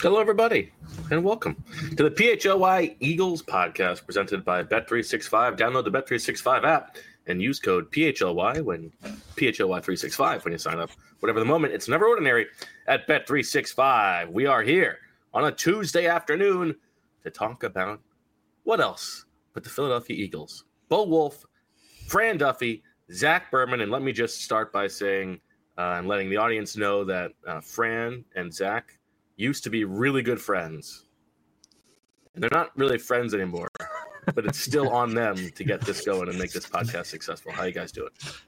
Hello, everybody, and welcome to the PHLY Eagles podcast presented by Bet365. Download the Bet365 app and use code PHLY when PHLY365 when you sign up. Whatever the moment, it's never ordinary at Bet365. We are here on a Tuesday afternoon to talk about what else but the Philadelphia Eagles. Bo Wolf, Fran Duffy, Zach Berman, and let me just start by saying and letting the audience know that Fran and Zach used to be really good friends. And they're not really friends anymore, but it's still on them to get this going and make this podcast successful. How you guys doing?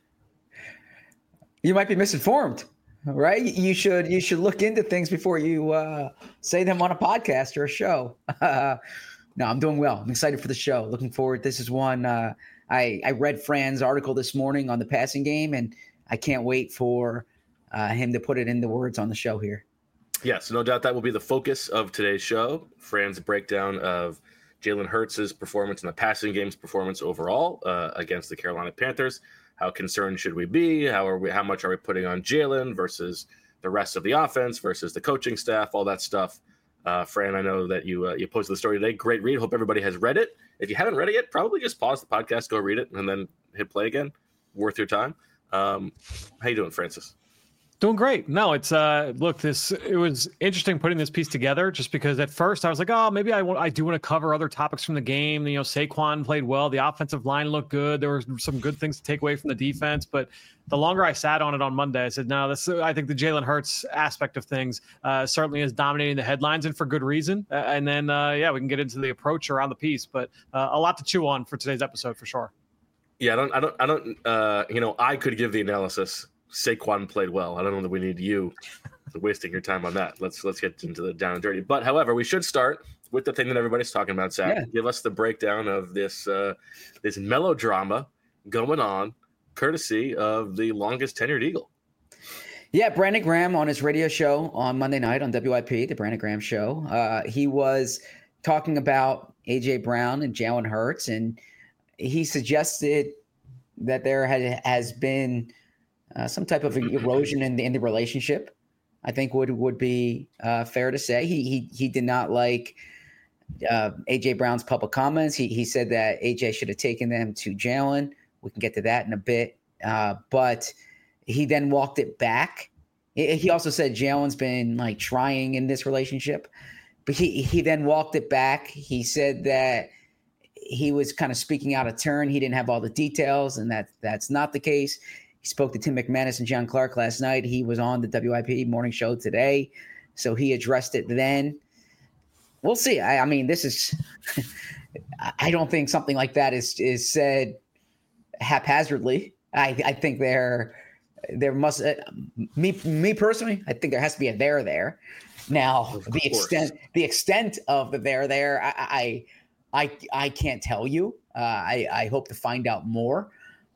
You might be misinformed, right? You should look into things before you say them on a podcast or a show. No, I'm doing well. I'm excited for the show. Looking forward. This is one. I read Fran's article this morning on the passing game, and I can't wait for him to put it into words on the show here. Yes, no doubt that will be the focus of today's show. Fran's breakdown of Jalen Hurts' performance and the passing game's performance overall against the Carolina Panthers. How concerned should we be? How much are we putting on Jalen versus the rest of the offense versus the coaching staff? All that stuff. Fran, I know that you posted the story today. Great read. Hope everybody has read it. If you haven't read it yet, probably just pause the podcast, go read it, and then hit play again. Worth your time. How you doing, Francis? Doing great. No, it was interesting putting this piece together just because at first I was like, oh, maybe I do want to cover other topics from the game. You know, Saquon played well. The offensive line looked good. There were some good things to take away from the defense. But the longer I sat on it on Monday, I said, no, I think the Jalen Hurts aspect of things certainly is dominating the headlines and for good reason. And then, we can get into the approach around the piece. But a lot to chew on for today's episode for sure. Yeah, I could give the analysis. Saquon played well. I don't know that we need you wasting your time on that. Let's get into the down and dirty. But however, we should start with the thing that everybody's talking about, Zach. Yeah. Give us the breakdown of this melodrama going on, courtesy of the longest tenured Eagle. Yeah, Brandon Graham on his radio show on Monday night on WIP, the Brandon Graham show. He was talking about A.J. Brown and Jalen Hurts, and he suggested that there has been some type of erosion in the relationship. I think would be fair to say. He did not like A.J. Brown's public comments. He said that A.J. should have taken them to Jalen. We can get to that in a bit. But he then walked it back. He also said Jalen's been like trying in this relationship. But he then walked it back. He said that he was kind of speaking out of turn. He didn't have all the details, and that's not the case. He spoke to Tim McManus and John Clark last night. He was on the WIP morning show today, so he addressed it then. We'll see. I mean, this is – I don't think something like that is said haphazardly. I think there must me personally, I think there has to be a there. Now, the extent of the there, I can't tell you. I hope to find out more.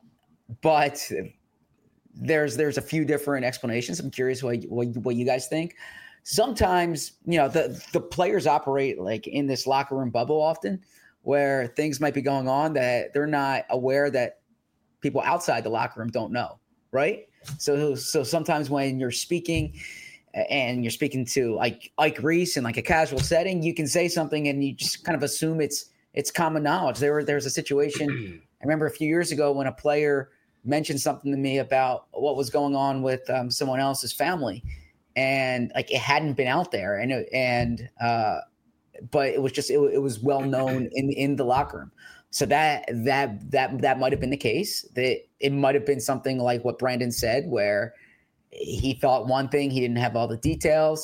But – There's a few different explanations. I'm curious what you guys think. Sometimes, the players operate like in this locker room bubble often where things might be going on that they're not aware that people outside the locker room don't know, right? So sometimes when you're speaking and you're speaking to like Ike Reese in like a casual setting, you can say something and you just kind of assume it's common knowledge. There's a situation I remember a few years ago when a player mentioned something to me about what was going on with someone else's family, and like it hadn't been out there, but it was just it was well known in the locker room. So that might have been the case. That it might have been something like what Brandon said, where he thought one thing, he didn't have all the details.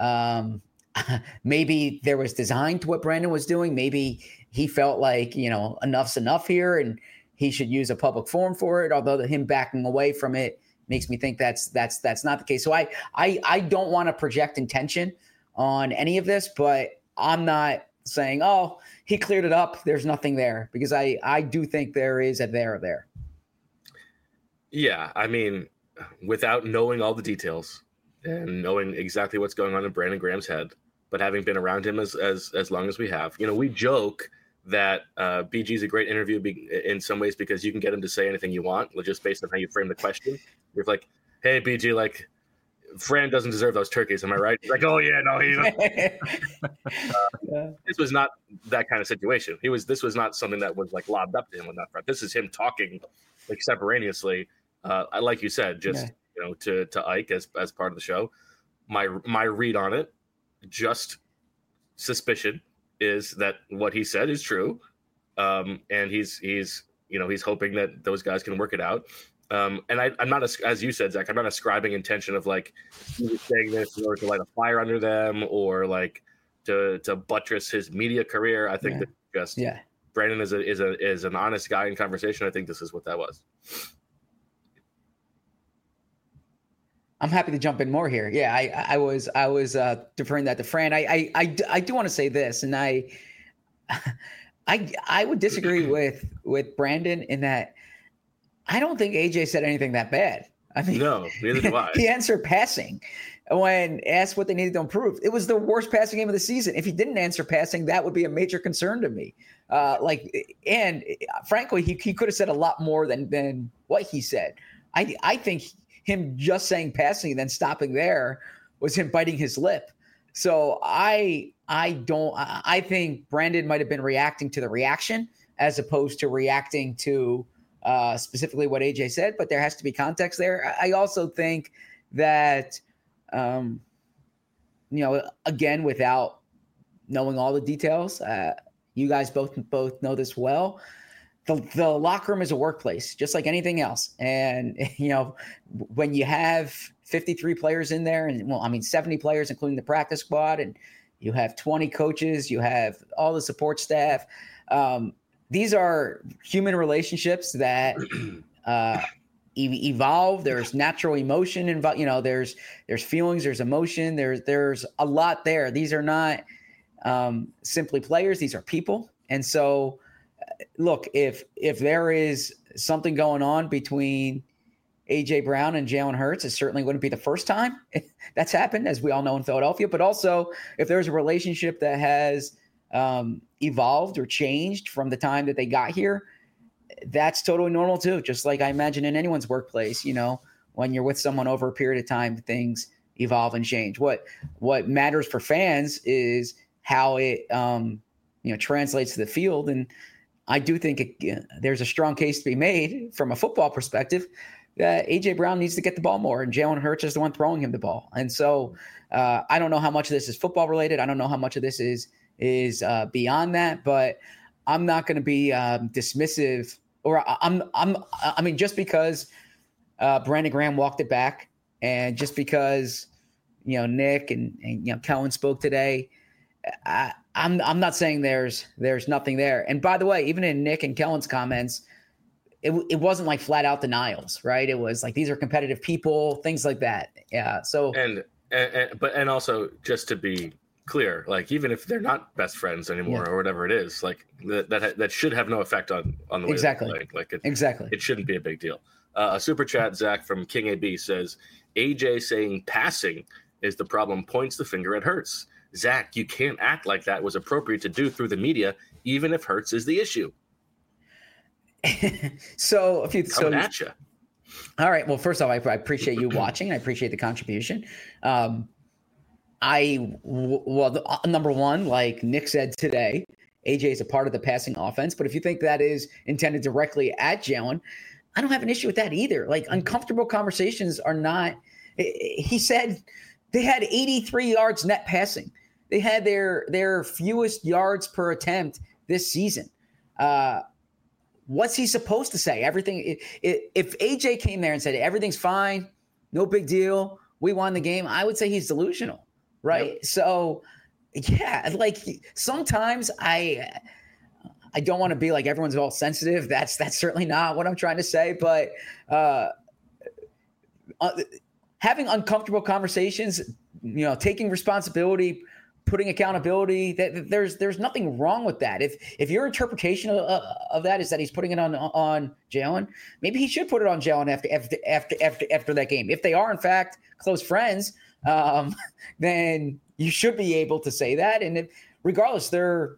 Maybe there was design to what Brandon was doing. Maybe he felt like enough's enough here, and he should use a public forum for it, although him backing away from it makes me think that's not the case. So I don't want to project intention on any of this, but I'm not saying, oh, he cleared it up, there's nothing there, because I do think there is a there. Yeah, I mean, without knowing all the details and knowing exactly what's going on in Brandon Graham's head, but having been around him as long as we have, we joke that BG is a great interview in some ways because you can get him to say anything you want, just based on how you frame the question. You're like, hey, BG, like, Fran doesn't deserve those turkeys. Am I right? He's like, oh yeah, no, this was not that kind of situation. This was not something that was like lobbed up to him on that front. This is him talking extemporaneously. Like you said, just to Ike as part of the show. My read on it, just suspicion, is that what he said is true, and he's hoping that those guys can work it out. And I'm not, as you said, Zach, I'm not ascribing intention of like he was saying this in order to light a fire under them or like to buttress his media career. I think that just Brandon is an honest guy in conversation. I think this is what that was. I'm happy to jump in more here. Yeah, I was deferring that to Fran. I do want to say this, and I would disagree with Brandon in that I don't think AJ said anything that bad. I mean, no, neither do I. He answered passing when asked what they needed to improve. It was the worst passing game of the season. If he didn't answer passing, that would be a major concern to me. And frankly, he could have said a lot more than what he said. I think him just saying passing and then stopping there was him biting his lip. So I think Brandon might have been reacting to the reaction as opposed to reacting to specifically what AJ said, but there has to be context there. I also think that, again, without knowing all the details, you guys both know this well. The locker room is a workplace, just like anything else. And, when you have 53 players in there and 70 players, including the practice squad, and you have 20 coaches, you have all the support staff. These are human relationships that evolve. There's natural emotion involved. There's feelings, there's emotion, there's a lot there. These are not simply players. These are people. And so, look, if there is something going on between AJ Brown and Jalen Hurts, it certainly wouldn't be the first time that's happened, as we all know in Philadelphia. But also, if there's a relationship that has evolved or changed from the time that they got here, that's totally normal too. Just like I imagine in anyone's workplace, when you're with someone over a period of time, things evolve and change. What matters for fans is how it translates to the field. And I do think there's a strong case to be made from a football perspective that AJ Brown needs to get the ball more, and Jalen Hurts is the one throwing him the ball. And so I don't know how much of this is football related. I don't know how much of this is beyond that, but I'm not going to be dismissive, or just because Brandon Graham walked it back, and just because Nick and Kellen spoke today, I'm not saying there's nothing there. And by the way, even in Nick and Kellen's comments, it wasn't like flat out denials, right? It was like, these are competitive people, things like that. Yeah. So and also, just to be clear, like, even if they're not best friends anymore or whatever it is, like that should have no effect on the way exactly. they play. Like exactly, it shouldn't be a big deal. A super chat, Zach from King AB says, AJ saying passing is the problem points the finger at Hurts. Zach, you can't act like that was appropriate to do through the media, even if Hurts is the issue. So if you coming at you. All right. Well, first off, I appreciate you watching. I appreciate the contribution. Number one, like Nick said today, AJ is a part of the passing offense. But if you think that is intended directly at Jalen, I don't have an issue with that either. Like, uncomfortable conversations are not. He said they had 83 yards net passing. They had their fewest yards per attempt this season. What's he supposed to say? Everything. If AJ came there and said everything's fine, no big deal, we won the game, I would say he's delusional, right? Yep. So, yeah, like sometimes I don't want to be like everyone's all sensitive. That's certainly not what I'm trying to say. But having uncomfortable conversations, taking responsibility, putting accountability, there's nothing wrong with that. If your interpretation of that is that he's putting it on Jalen, maybe he should put it on Jalen after that game. If they are in fact close friends, then you should be able to say that. And regardless,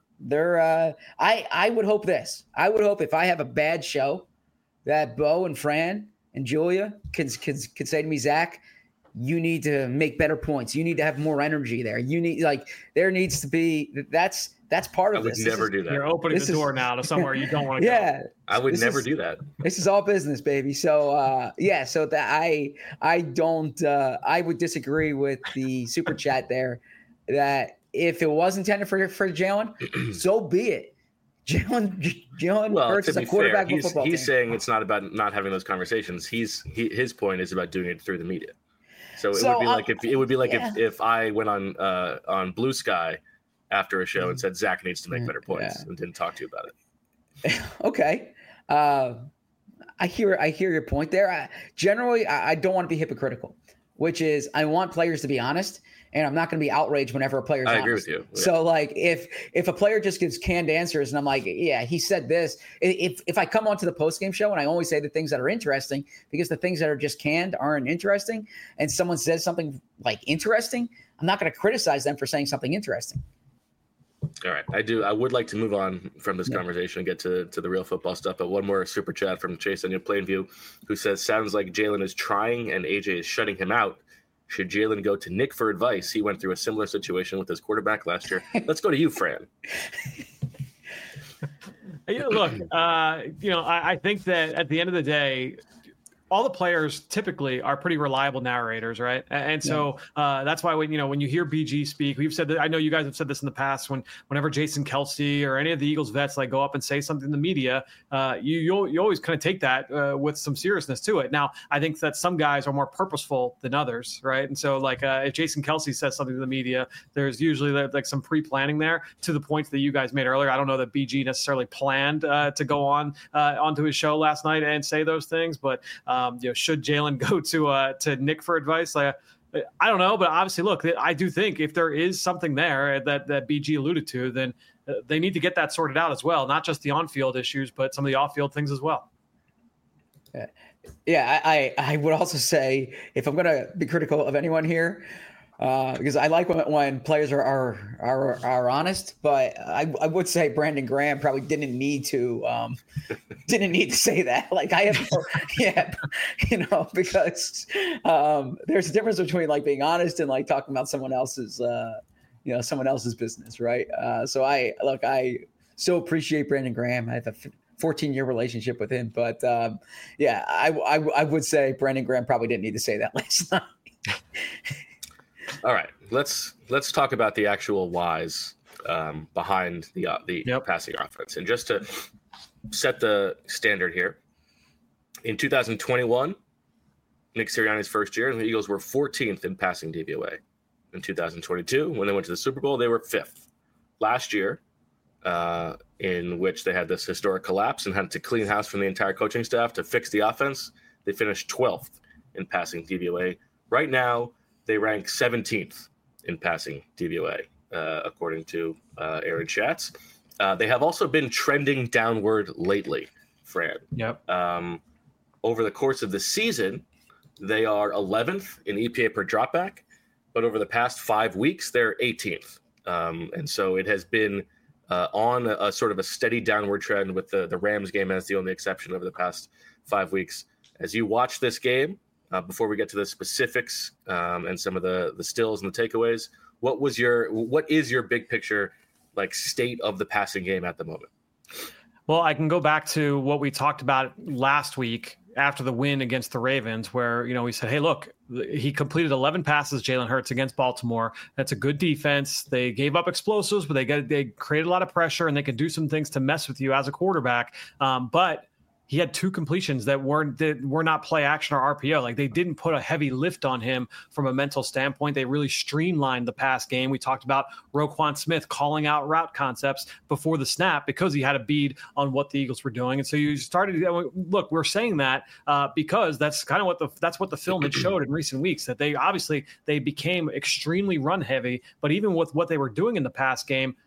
I would hope this. I would hope if I have a bad show, that Bo and Fran and Julia can say to me, Zach, you need to make better points. You need to have more energy there. You need there needs to be that's part of this. I would never do that. You're opening the door now to somewhere you don't want to go. I would never do that. This is all business, baby. So so that I don't I would disagree with the super chat there that if it was intended for Jalen, so be it. Jalen Hurts is a quarterback of a football team. He's saying it's not about not having those conversations. His point is about doing it through the media. So it would be like if I went on Blue Sky after a show and said Zach needs to make better points and didn't talk to you about it. Okay. I hear your point there. Generally, I don't want to be hypocritical, which is I want players to be honest, and I'm not going to be outraged whenever a player's honest. I agree with you. Yeah. So if a player just gives canned answers and I'm like, yeah, he said this. If I come onto the postgame show and I only say the things that are interesting because the things that are just canned aren't interesting, and someone says something like interesting, I'm not going to criticize them for saying something interesting. All right. I would like to move on from this conversation and get to the real football stuff. But one more super chat from Chase on Plainview, who says, sounds like Jalen is trying and AJ is shutting him out. Should Jalen go to Nick for advice? He went through a similar situation with his quarterback last year. Let's go to you, Fran. Look, I think that at the end of the day, all the players typically are pretty reliable narrators, right? And so that's why when you hear BG speak, we've said that. I know you guys have said this in the past. Whenever Jason Kelce or any of the Eagles vets go up and say something in the media, you always kind of take that with some seriousness to it. Now, I think that some guys are more purposeful than others, right? And so if Jason Kelce says something to the media, there's usually some pre-planning there. To the points that you guys made earlier, I don't know that BG necessarily planned to go onto his show last night and say those things, but. Should Jalen go to Nick for advice? I don't know, but obviously, look, I do think if there is something there that BG alluded to, then they need to get that sorted out as well. Not just the on-field issues, but some of the off-field things as well. Yeah, I would also say if I'm going to be critical of anyone here, because I like when players are honest, but I would say Brandon Graham probably didn't need to say that. Because there's a difference between being honest and talking about someone else's business, right? So I so appreciate Brandon Graham. I have a 14-year relationship with him, but I would say Brandon Graham probably didn't need to say that last night. All right, let's talk about the actual whys behind the passing offense. And just to set the standard here, in 2021, Nick Sirianni's first year, the Eagles were 14th in passing DVOA. In 2022, when they went to the Super Bowl, they were 5th. Last year, in which they had this historic collapse and had to clean house from the entire coaching staff to fix the offense, they finished 12th in passing DVOA. Right now, they rank 17th in passing DVOA, according to Aaron Schatz. They have also been trending downward lately, Fran. Yep. Over the course of the season, they are 11th in EPA per dropback, but over the past 5 weeks, they're 18th. And so it has been on a sort of a steady downward trend, with the Rams game as the only exception over the past 5 weeks. As you watch this game, before we get to the specifics and some of the stills and the takeaways, what is your big picture state of the passing game at the moment? Well, I can go back to what we talked about last week after the win against the Ravens, where we said, hey, look, he completed 11 passes, Jalen Hurts, against Baltimore. That's a good defense. They gave up explosives, but they created a lot of pressure, and they can do some things to mess with you as a quarterback. But he had 2 completions that were not play action or RPO. They didn't put a heavy lift on him from a mental standpoint. They really streamlined the pass game. We talked about Roquan Smith calling out route concepts before the snap because he had a bead on what the Eagles were doing. And so you started, look, we're saying that because that's kind of what the film had showed in recent weeks, that they became extremely run heavy, but even with what they were doing in the pass game,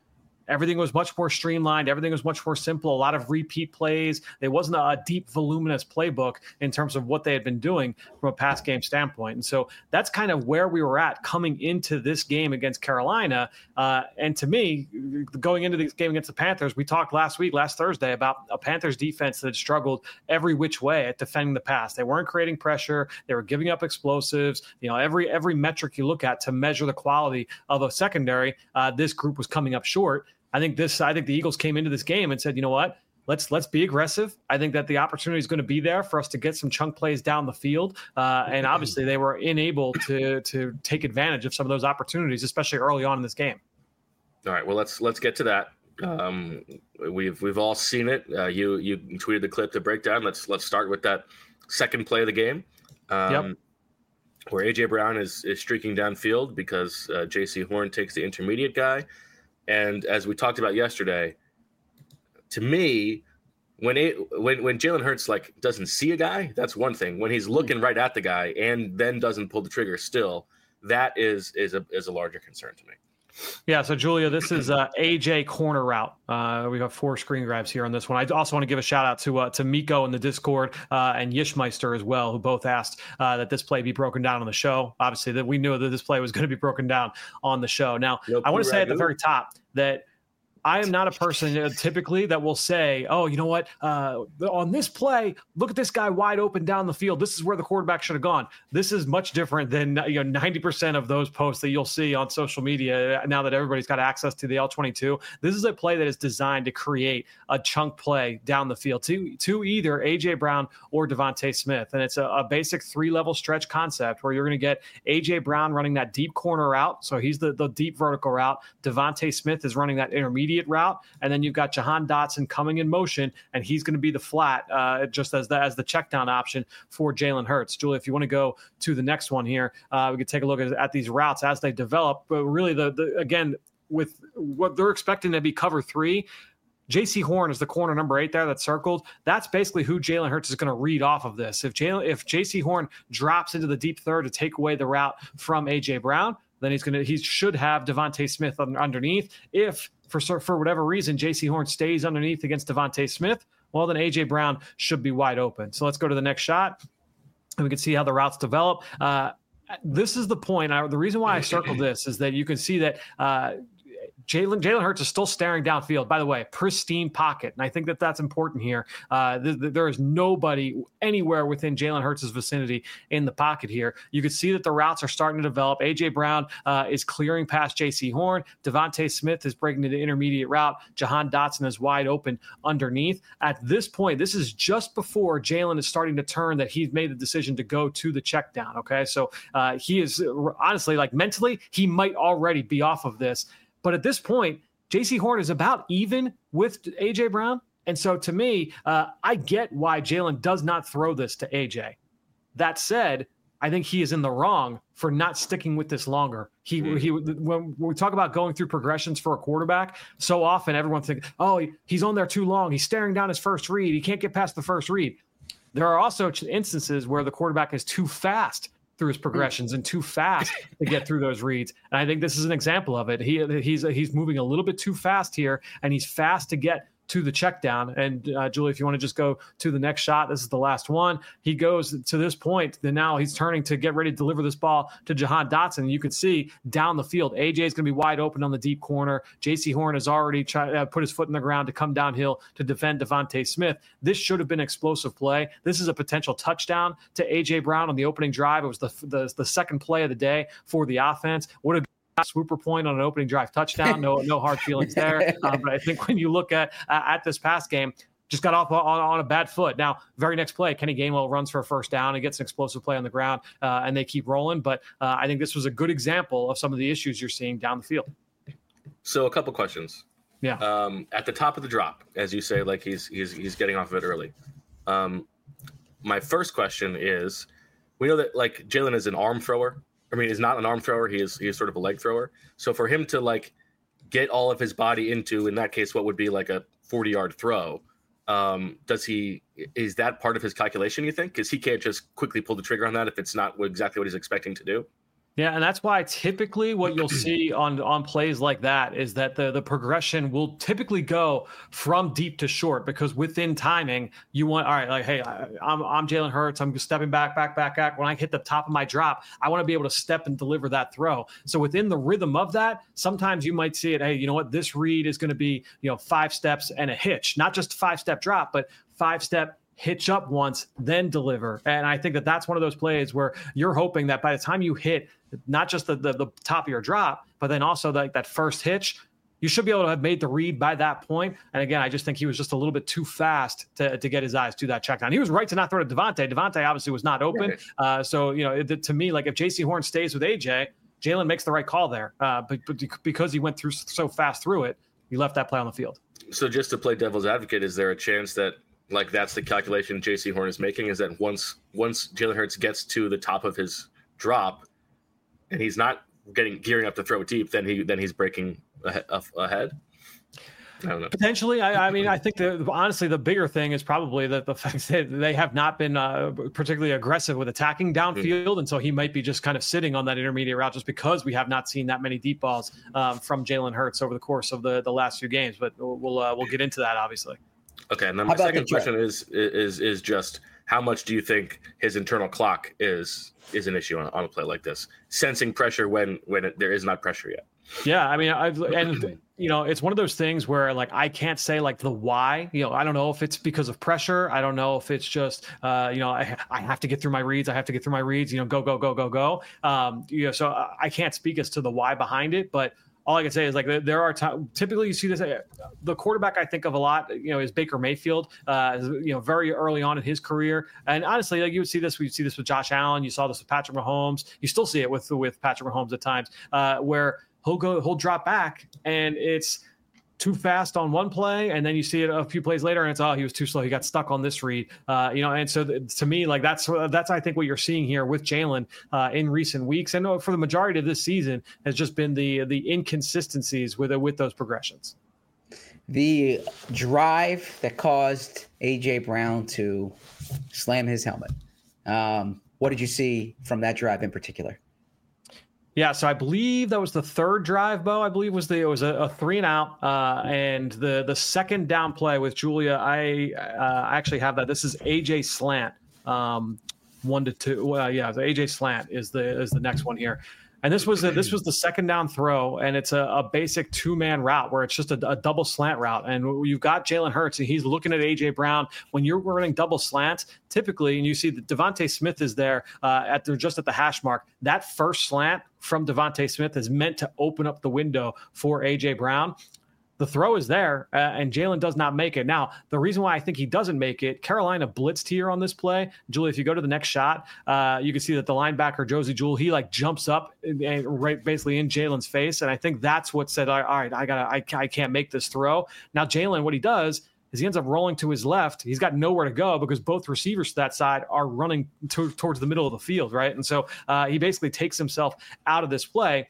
Everything was much more streamlined. Everything was much more simple. A lot of repeat plays. There wasn't a deep, voluminous playbook in terms of what they had been doing from a pass game standpoint. And so that's kind of where we were at coming into this game against Carolina. And to me, going into this game against the Panthers, we talked last Thursday, about a Panthers defense that had struggled every which way at defending the pass. They weren't creating pressure. They were giving up explosives. Every metric you look at to measure the quality of a secondary, this group was coming up short. I think the Eagles came into this game and said, you know what, let's be aggressive. I think that the opportunity is going to be there for us to get some chunk plays down the field. And obviously they were unable to take advantage of some of those opportunities, especially early on in this game. All right, well, let's get to that. We've all seen it. You tweeted the clip to break down. Let's start with that second play of the game. Where AJ Brown is streaking downfield because J.C. Horn takes the intermediate guy. And as we talked about yesterday, to me, when Jalen Hurts doesn't see a guy, that's one thing. When he's looking right at the guy and then doesn't pull the trigger, still, that is a larger concern to me. Yeah, so Julia, this is AJ corner route. We have 4 screen grabs here on this one. I also want to give a shout out to Miko in the Discord and Yishmeister as well, who both asked that this play be broken down on the show. Obviously, that we knew that this play was going to be broken down on the show. Now, I want to say at the very top that I am not a person typically that will say, oh, you know what, on this play, look at this guy wide open down the field. This is where the quarterback should have gone. This is much different than 90% of those posts that you'll see on social media now that everybody's got access to the L22. This is a play that is designed to create a chunk play down the field to either A.J. Brown or Devontae Smith. And it's a basic 3-level stretch concept where you're going to get A.J. Brown running that deep corner route. So he's the deep vertical route. Devontae Smith is running that intermediate route, and then you've got Jahan Dotson coming in motion, and he's going to be the flat, just as the check down option for Jalen Hurts. Julie, if you want to go to the next one here, we could take a look at these routes as they develop. But really, again, with what they're expecting to be cover 3, J.C. Horn is the corner number 8 there that's circled. That's basically who Jalen Hurts is going to read off of this. If J.C. Horn drops into the deep third to take away the route from A.J. Brown, then he should have Devontae Smith underneath. If for whatever reason J.C. Horn stays underneath against Devontae Smith, well, then A.J. Brown should be wide open. So let's go to the next shot, and we can see how the routes develop. This is the point. The reason why I circled this is that you can see that Jalen Hurts is still staring downfield. By the way, pristine pocket, and I think that that's important here. There is nobody anywhere within Jalen Hurts' vicinity in the pocket here. You can see that the routes are starting to develop. A.J. Brown is clearing past J.C. Horn. Devontae Smith is breaking to the intermediate route. Jahan Dotson is wide open underneath. At this point, this is just before Jalen is starting to turn that he's made the decision to go to the check down. Okay, so he is honestly, mentally, he might already be off of this. But at this point, J.C. Horn is about even with A.J. Brown. And so to me, I get why Jalen does not throw this to A.J. That said, I think he is in the wrong for not sticking with this longer. When we talk about going through progressions for a quarterback, so often everyone thinks, oh, he's on there too long. He's staring down his first read. He can't get past the first read. There are also instances where the quarterback is too fast through his progressions and too fast to get through those reads. And I think this is an example of it. He's moving a little bit too fast here, and he's fast to get to the check down. And Julie, if you want to just go to the next shot, this is the last one. He goes to this point, then now he's turning to get ready to deliver this ball to Jahan Dotson. You could see down the field, AJ is going to be wide open on the deep corner. J.C. Horn has already put his foot in the ground to come downhill to defend Devontae Smith. This should have been an explosive play. This is a potential touchdown to AJ Brown on the opening drive. It was the second play of the day for the offense. What a swooper point on an opening drive touchdown. No hard feelings there. But I think when you look at this pass game, just got off on a bad foot. Now, very next play, Kenny Gainwell runs for a first down and gets an explosive play on the ground, and they keep rolling. But I think this was a good example of some of the issues you're seeing down the field. So a couple questions. Yeah. At the top of the drop, as you say, he's getting off of it early. My first question is, we know that Jalen is an arm thrower. I mean, he's not an arm thrower. He is sort of a leg thrower. So for him to get all of his body into, in that case, what would be a 40-yard throw, is that part of his calculation, you think? Because he can't just quickly pull the trigger on that if it's not exactly what he's expecting to do? Yeah, and that's why typically what you'll see on plays like that is that the progression will typically go from deep to short, because within timing, you want, all right, like, hey, I'm Jalen Hurts. I'm stepping back. When I hit the top of my drop, I want to be able to step and deliver that throw. So within the rhythm of that, sometimes you might see it, hey, you know what, this read is going to be, 5 steps and a hitch, not just 5-step drop, but 5-step hitch up once, then deliver. And I think that that's one of those plays where you're hoping that by the time you hit not just the top of your drop, but then also that first hitch, you should be able to have made the read by that point. And again, I just think he was just a little bit too fast to get his eyes to that check down. He was right to not throw to Devontae. Devontae obviously was not open. Right. So, to me, like if JC Horn stays with AJ, Jalen makes the right call there. But because he went through so fast through it, he left that play on the field. So just to play devil's advocate, is there a chance that that's the calculation JC Horn is making, is that once Jalen Hurts gets to the top of his drop and he's not gearing up to throw deep, then he's breaking ahead? I don't know. Potentially. I mean, I think honestly, the bigger thing is probably the fact that they have not been particularly aggressive with attacking downfield. And so he might be just kind of sitting on that intermediate route just because we have not seen that many deep balls from Jalen Hurts over the course of the last few games. But we'll get into that, obviously. Okay, and then my second question is just how much do you think his internal clock is an issue on a play like this? Sensing pressure when there is not pressure yet. Yeah, I mean, it's one of those things where I can't say the why. I don't know if it's because of pressure. I don't know if it's just I have to get through my reads. Go. So I can't speak as to the why behind it, but all I can say is there are typically you see this. The quarterback I think of a lot, is Baker Mayfield. Very early on in his career, and honestly, you would see this. We see this with Josh Allen. You saw this with Patrick Mahomes. You still see it with Patrick Mahomes at times, where he'll drop back and it's too fast on one play, and then you see it a few plays later, and it's he was too slow. He got stuck on this read, And so to me, that's I think what you're seeing here with Jalen in recent weeks, and for the majority of this season, has just been the inconsistencies with those progressions. The drive that caused AJ Brown to slam his helmet. What did you see from that drive in particular? Yeah, so I believe that was the third drive, Bo. I believe it was a 3-and-out, and the second down play with Julia. I actually have that. This is AJ slant, 1-2. The AJ slant is the next one here. And this was the second down throw, and it's a basic 2-man route where it's just a double slant route. And you've got Jalen Hurts, and he's looking at A.J. Brown. When you're running double slants, typically, and you see that Devontae Smith is there just at the hash mark, that first slant from Devontae Smith is meant to open up the window for A.J. Brown. The throw is there, and Jalen does not make it. Now, the reason why I think he doesn't make it, Carolina blitzed here on this play. Julie, if you go to the next shot, you can see that the linebacker, Josie Jewell, he jumps up and right basically in Jalen's face. And I think that's what said, all right, I can't make this throw. Now, Jalen, what he does is he ends up rolling to his left. He's got nowhere to go because both receivers to that side are running towards the middle of the field, right? And so he basically takes himself out of this play.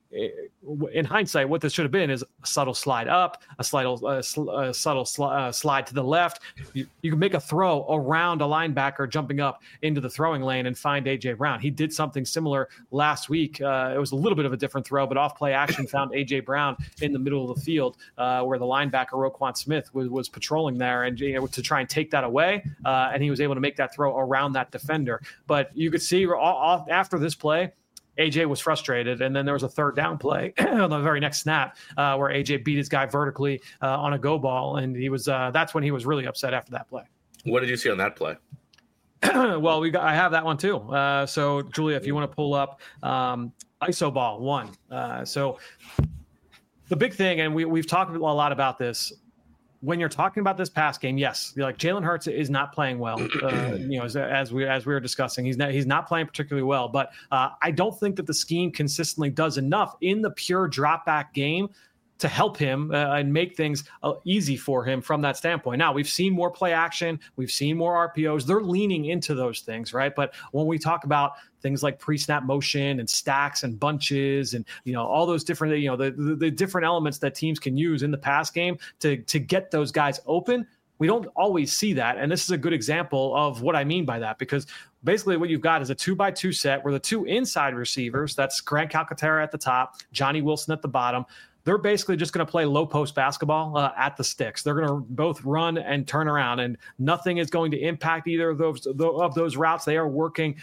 In hindsight, what this should have been is a subtle slide up, a subtle slide to the left. You can make a throw around a linebacker jumping up into the throwing lane and find A.J. Brown. He did something similar last week. It was a little bit of a different throw, but off play action found A.J. Brown in the middle of the field where the linebacker Roquan Smith was patrolling there and to try and take that away. And he was able to make that throw around that defender. But you could see after this play, AJ was frustrated, and then there was a third down play on the very next snap where AJ beat his guy vertically on a go ball, and he was that's when he was really upset after that play. What did you see on that play? Well, I have that one too. So, Julia, if you want to pull up ISO ball 1. So the big thing, and we've talked a lot about this, when you're talking about this pass game, yes, Jalen Hurts is not playing well. As we were discussing, he's not playing particularly well. But I don't think that the scheme consistently does enough in the pure drop back game to help him and make things easy for him from that standpoint. Now, we've seen more play action. We've seen more RPOs. They're leaning into those things, right? But when we talk about things like pre-snap motion and stacks and bunches and, all those different, the different elements that teams can use in the pass game to get those guys open, We don't always see that. And this is a good example of what I mean by that, because basically what you've got is a 2x2 set where the two inside receivers, that's Grant Calcaterra at the top, Johnny Wilson at the bottom, they're basically just going to play low post basketball at the sticks. They're going to both run and turn around, and nothing is going to impact either of those routes. They are working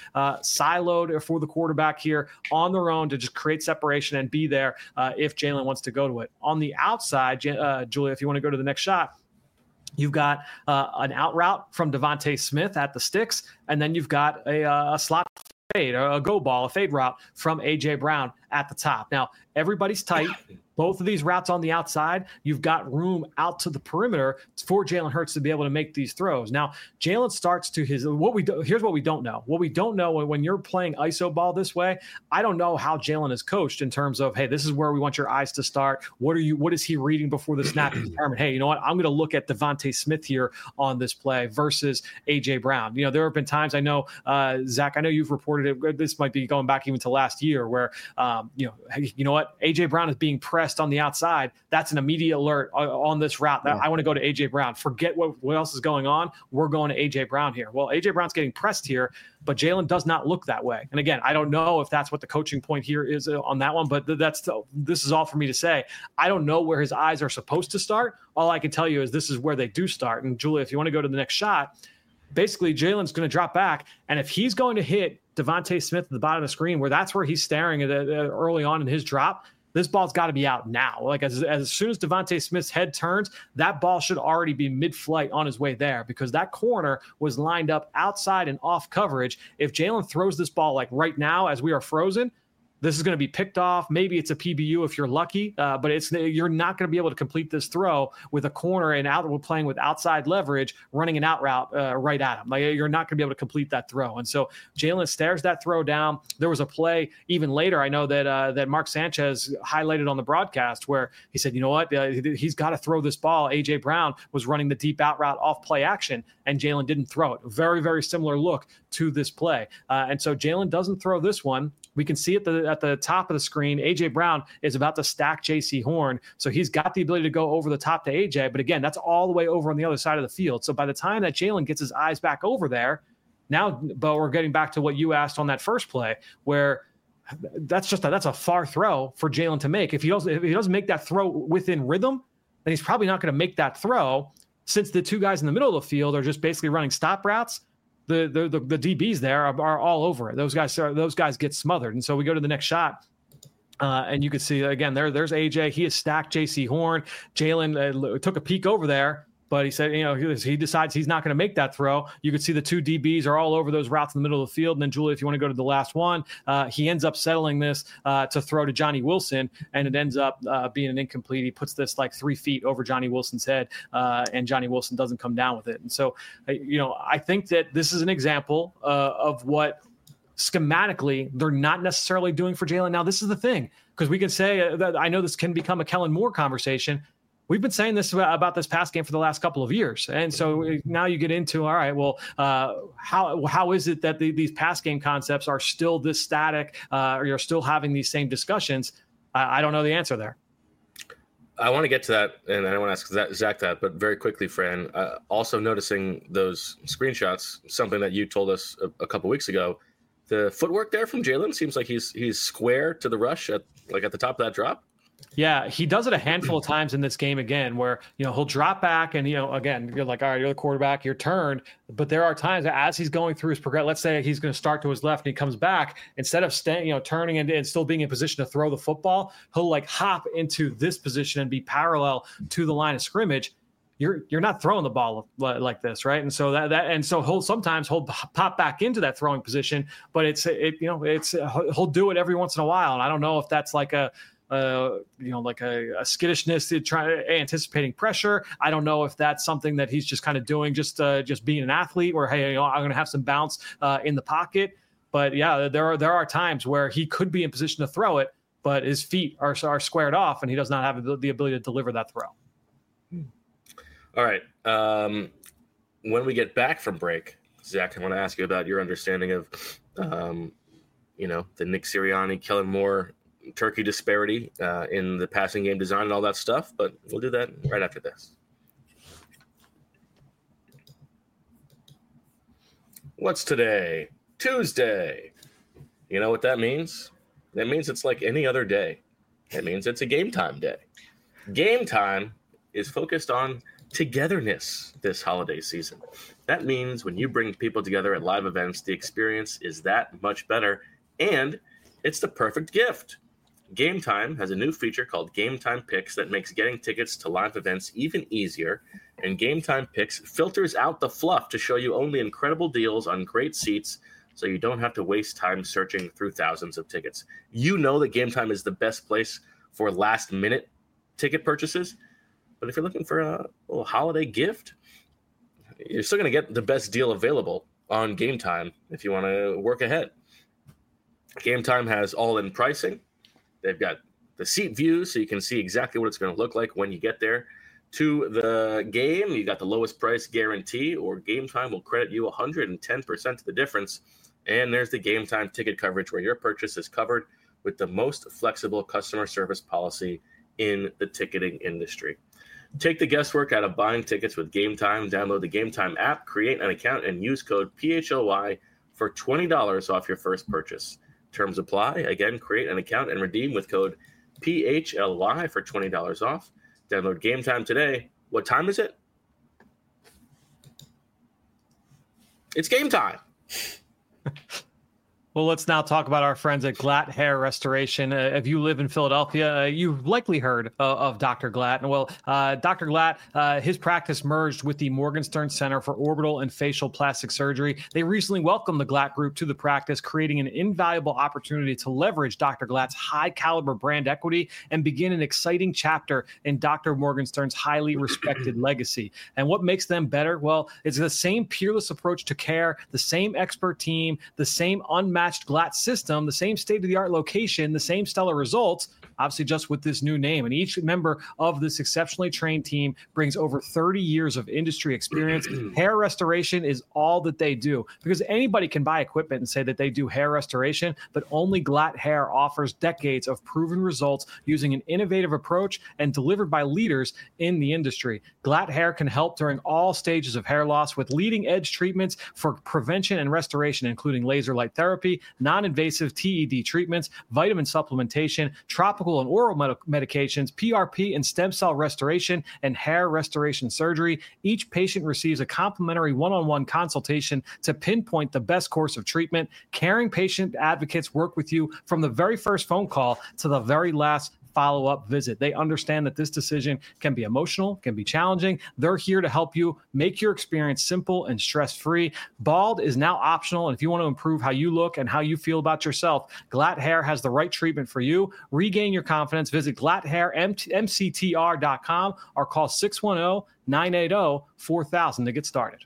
siloed for the quarterback here on their own to just create separation and be there if Jalen wants to go to it. On the outside, Julia, if you want to go to the next shot, you've got an out route from Devontae Smith at the sticks, and then you've got a slot fade, a go ball, a fade route from A.J. Brown at the top. Now, everybody's tight. Both of these routes on the outside, you've got room out to the perimeter for Jalen Hurts to be able to make these throws. Now, Jalen starts to here's what we don't know. What we don't know when you're playing ISO ball this way, I don't know how Jalen is coached in terms of, hey, this is where we want your eyes to start. What is he reading before the snap to determine, hey, you know what, I'm going to look at Devontae Smith here on this play versus A.J. Brown. You know, there have been times, I know, Zach, I know you've reported it. This might be going back even to last year where, you know what, A.J. Brown is being pressed on the outside. That's an immediate alert on this route. I want to go to A.J. Brown. Forget what else is going on. We're going to A.J. Brown here. Well, A.J. Brown's getting pressed here, but Jalen does not look that way. And again, I don't know if that's what the coaching point here is on that one, but this is all for me to say. I don't know where his eyes are supposed to start. All I can tell you is this is where they do start. And Julia, if you want to go to the next shot, basically Jalen's going to drop back. And if he's going to hit Devontae Smith at the bottom of the screen, where that's where he's staring at early on in his drop, this ball's got to be out now. Like as soon as Devontae Smith's head turns, that ball should already be mid-flight on his way there, because that corner was lined up outside and off coverage. If Jalen throws this ball like right now as we are frozen, this is going to be picked off. Maybe it's a PBU if you're lucky, but you're not going to be able to complete this throw with a corner and we're playing with outside leverage, running an out route right at him. Like, you're not going to be able to complete that throw. And so Jalen stares that throw down. There was a play even later, I know that Mark Sanchez highlighted on the broadcast, where he said, you know what, he's got to throw this ball. A.J. Brown was running the deep out route off play action, and Jalen didn't throw it. Very, very similar look to this play. And so Jalen doesn't throw this one. We can see at the top of the screen, A.J. Brown is about to stack J.C. Horn. So he's got the ability to go over the top to A.J., but again, that's all the way over on the other side of the field. So by the time that Jalen gets his eyes back over there, now, but we're getting back to what you asked on that first play, where that's a far throw for Jalen to make. If he doesn't make that throw within rhythm, then he's probably not going to make that throw, since the two guys in the middle of the field are just basically running stop routes. The DBs there are all over it. Those guys get smothered. And so we go to the next shot. And you can see, again, there's AJ. He has stacked J.C. Horn. Jalen took a peek over there, but he said, he decides he's not going to make that throw. You could see the two DBs are all over those routes in the middle of the field. And then, Julia, if you want to go to the last one, he ends up settling this to throw to Johnny Wilson, and it ends up being an incomplete. He puts this like 3 feet over Johnny Wilson's head, and Johnny Wilson doesn't come down with it. And so, I think that this is an example of what schematically they're not necessarily doing for Jalen. Now, this is the thing, because we can say that I know this can become a Kellen Moore conversation. We've been saying this about this pass game for the last couple of years. And so now you get into, all right, well, how is it that these pass game concepts are still this static, or you're still having these same discussions? I don't know the answer there. I want to get to that, and I want to ask Zach that, but very quickly, Fran, also noticing those screenshots, something that you told us a couple weeks ago, the footwork there from Jalen seems like he's square to the rush at the top of that drop. Yeah, he does it a handful of times in this game again, where, he'll drop back and, again, you're like, all right, you're the quarterback, you're turned. But there are times as he's going through his progression, let's say he's going to start to his left and he comes back, instead of turning and still being in position to throw the football, he'll like hop into this position and be parallel to the line of scrimmage. You're not throwing the ball like this, right? And so so he'll pop back into that throwing position, but he'll do it every once in a while. And I don't know if that's like a skittishness to try anticipating pressure. I don't know if that's something that he's just kind of doing, just being an athlete, where, hey, I'm going to have some bounce in the pocket. But yeah, there are times where he could be in position to throw it, but his feet are squared off and he does not have the ability to deliver that throw. All right. When we get back from break, Zach, I want to ask you about your understanding of, the Nick Sirianni, Kellen Moore, turkey disparity in the passing game design and all that stuff. But we'll do that right after this. What's today? Tuesday. You know what that means? That means it's like any other day. It means it's a Game Time day. Game Time is focused on togetherness this holiday season. That means when you bring people together at live events, the experience is that much better, and it's the perfect gift. Game Time has a new feature called Game Time Picks that makes getting tickets to live events even easier, and Game Time Picks filters out the fluff to show you only incredible deals on great seats so you don't have to waste time searching through thousands of tickets. You know that Game Time is the best place for last-minute ticket purchases, but if you're looking for a little holiday gift, you're still going to get the best deal available on Game Time if you want to work ahead. Game Time has all-in pricing. They've got the seat view, so you can see exactly what it's going to look like when you get there to the game. You got the lowest price guarantee, or Game Time will credit you 110% of the difference. And there's the Game Time ticket coverage, where your purchase is covered with the most flexible customer service policy in the ticketing industry. Take the guesswork out of buying tickets with Game Time. Download the Game Time app, create an account, and use code PHLY for $20 off your first purchase. Terms apply. Again, create an account and redeem with code PHLY for $20 off. Download Game Time today. What time is it? It's game time. Well, let's now talk about our friends at Glatt Hair Restoration. If you live in Philadelphia, you've likely heard of Dr. Glatt. And well, Dr. Glatt, his practice merged with the Morgenstern Center for Orbital and Facial Plastic Surgery. They recently welcomed the Glatt Group to the practice, creating an invaluable opportunity to leverage Dr. Glatt's high-caliber brand equity and begin an exciting chapter in Dr. Morgenstern's highly respected legacy. And what makes them better? Well, it's the same peerless approach to care, the same expert team, the same unmatched Glatt system, the same state-of-the-art location, the same stellar results, obviously just with this new name. And each member of this exceptionally trained team brings over 30 years of industry experience. Hair restoration is all that they do, because anybody can buy equipment and say that they do hair restoration, but only Glatt Hair offers decades of proven results using an innovative approach and delivered by leaders in the industry. Glatt Hair can help during all stages of hair loss with leading-edge treatments for prevention and restoration, including laser light therapy, non-invasive TED treatments, vitamin supplementation, tropical and oral medications, PRP and stem cell restoration, and hair restoration surgery. Each patient receives a complimentary one-on-one consultation to pinpoint the best course of treatment. Caring patient advocates work with you from the very first phone call to the very last follow-up visit. They understand that this decision can be emotional, can be challenging. They're here to help you make your experience simple and stress-free. Bald is now optional, and if you want to improve how you look and how you feel about yourself, Glatt Hair has the right treatment for you. Regain your confidence. Visit GlattHairMCTR.com or call 610-980-4000 to get started.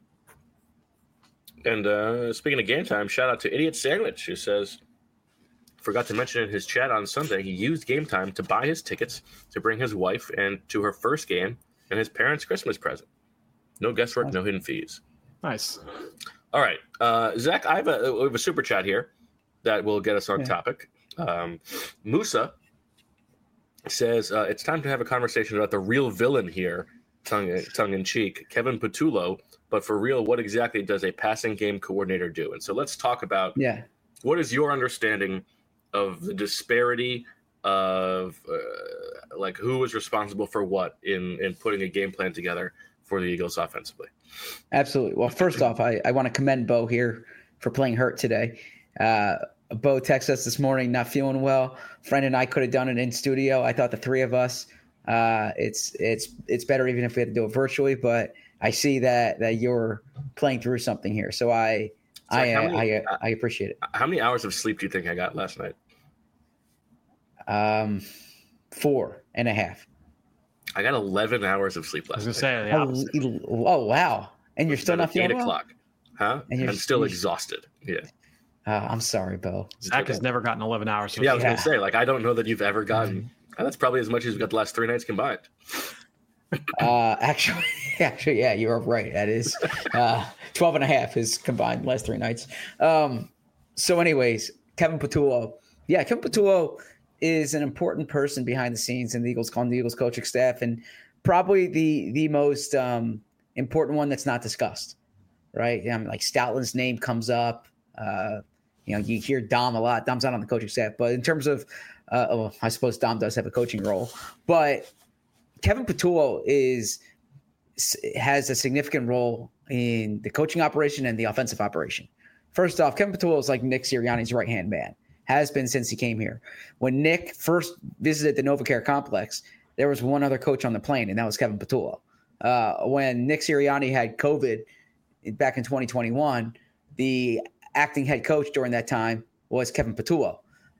And speaking of Game Time, shout out to Idiot Sandwich, who says, forgot to mention in his chat on Sunday, he used Game Time to buy his tickets to bring his wife and to her first game and his parents' Christmas present. No guesswork, no hidden fees. Nice. All right. Zach, we have a super chat here that will get us on topic. Musa says, it's time to have a conversation about the real villain here, tongue in cheek, Kevin Patullo. But for real, what exactly does a passing game coordinator do? And so let's talk about what is your understanding of the disparity of like who was responsible for what in putting a game plan together for the Eagles offensively? Absolutely. Well, first off, I want to commend Bo here for playing hurt today. Bo texted us this morning, not feeling well. Friend and I could have done it in studio. I thought the three of us, it's better even if we had to do it virtually, but I see that you're playing through something here. So I appreciate it. How many hours of sleep do you think I got last night? 4.5. I got 11 hours of sleep last night. Oh, wow. And you're still not feeling 8 o'clock. Huh? And I'm still exhausted. Yeah. I'm sorry, Bo. Zach has never gotten 11 hours. Yeah, I was going to say, like, I don't know that you've ever gotten. That's probably as much as you've got the last 3 nights combined. Actually, yeah, you're right. That is 12.5 is combined last 3 nights. So anyways, Kevin Patullo. Yeah, Kevin Patullo is an important person behind the scenes in the Eagles coaching staff, and probably the most important one that's not discussed, right? Like Stoutland's name comes up. You hear Dom a lot. Dom's not on the coaching staff, but in terms of, I suppose Dom does have a coaching role, but Kevin Patullo has a significant role in the coaching operation and the offensive operation. First off, Kevin Patullo is like Nick Sirianni's right-hand man, has been since he came here. When Nick first visited the NovaCare complex, there was one other coach on the plane, and that was Kevin Patullo. When Nick Sirianni had COVID back in 2021, the acting head coach during that time was Kevin Patullo.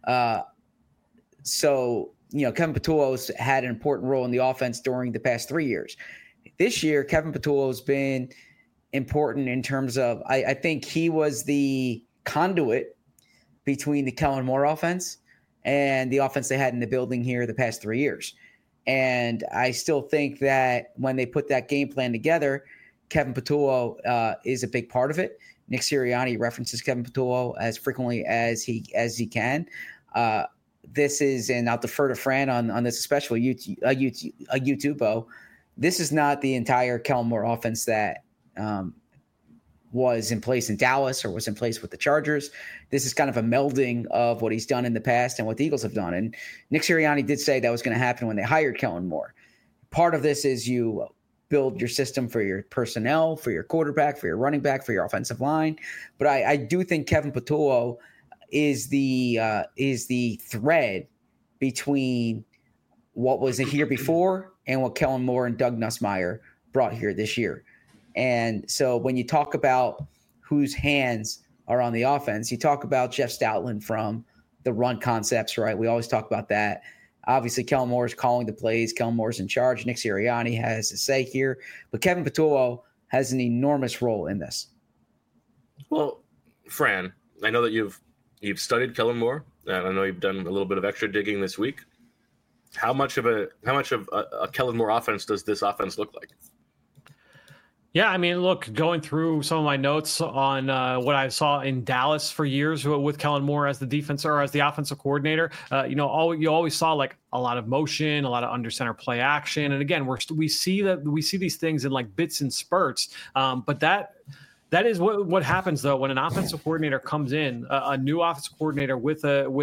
So Kevin Patullo's had an important role in the offense during the past 3 years. This year, Kevin Patullo's been important in terms of, I think he was the conduit between the Kellen Moore offense and the offense they had in the building here the past 3 years. And I still think that when they put that game plan together, Kevin Patullo is a big part of it. Nick Sirianni references Kevin Patullo as frequently as he can. This is, and I'll defer to Fran on this, especially YouTube. This is not the entire Kellen Moore offense that was in place in Dallas or was in place with the Chargers. This is kind of a melding of what he's done in the past and what the Eagles have done. And Nick Sirianni did say that was going to happen when they hired Kellen Moore. Part of this is you build your system for your personnel, for your quarterback, for your running back, for your offensive line. But I do think Kevin Patullo is the thread between what was in here before and what Kellen Moore and Doug Nussmeier brought here this year. And so when you talk about whose hands are on the offense, you talk about Jeff Stoutland from the run concepts, right? We always talk about that. Obviously, Kellen Moore is calling the plays. Kellen Moore's in charge. Nick Sirianni has a say here. But Kevin Patullo has an enormous role in this. Well, Fran, I know that you've studied Kellen Moore, and I know you've done a little bit of extra digging this week. How much of a Kellen Moore offense does this offense look like? Yeah, I mean, look, going through some of my notes on what I saw in Dallas for years with Kellen Moore as the defense or as the offensive coordinator, you always saw like a lot of motion, a lot of under center play action, and again, we see these things in like bits and spurts, but that is what happens though when an offensive coordinator comes in, a new offensive coordinator with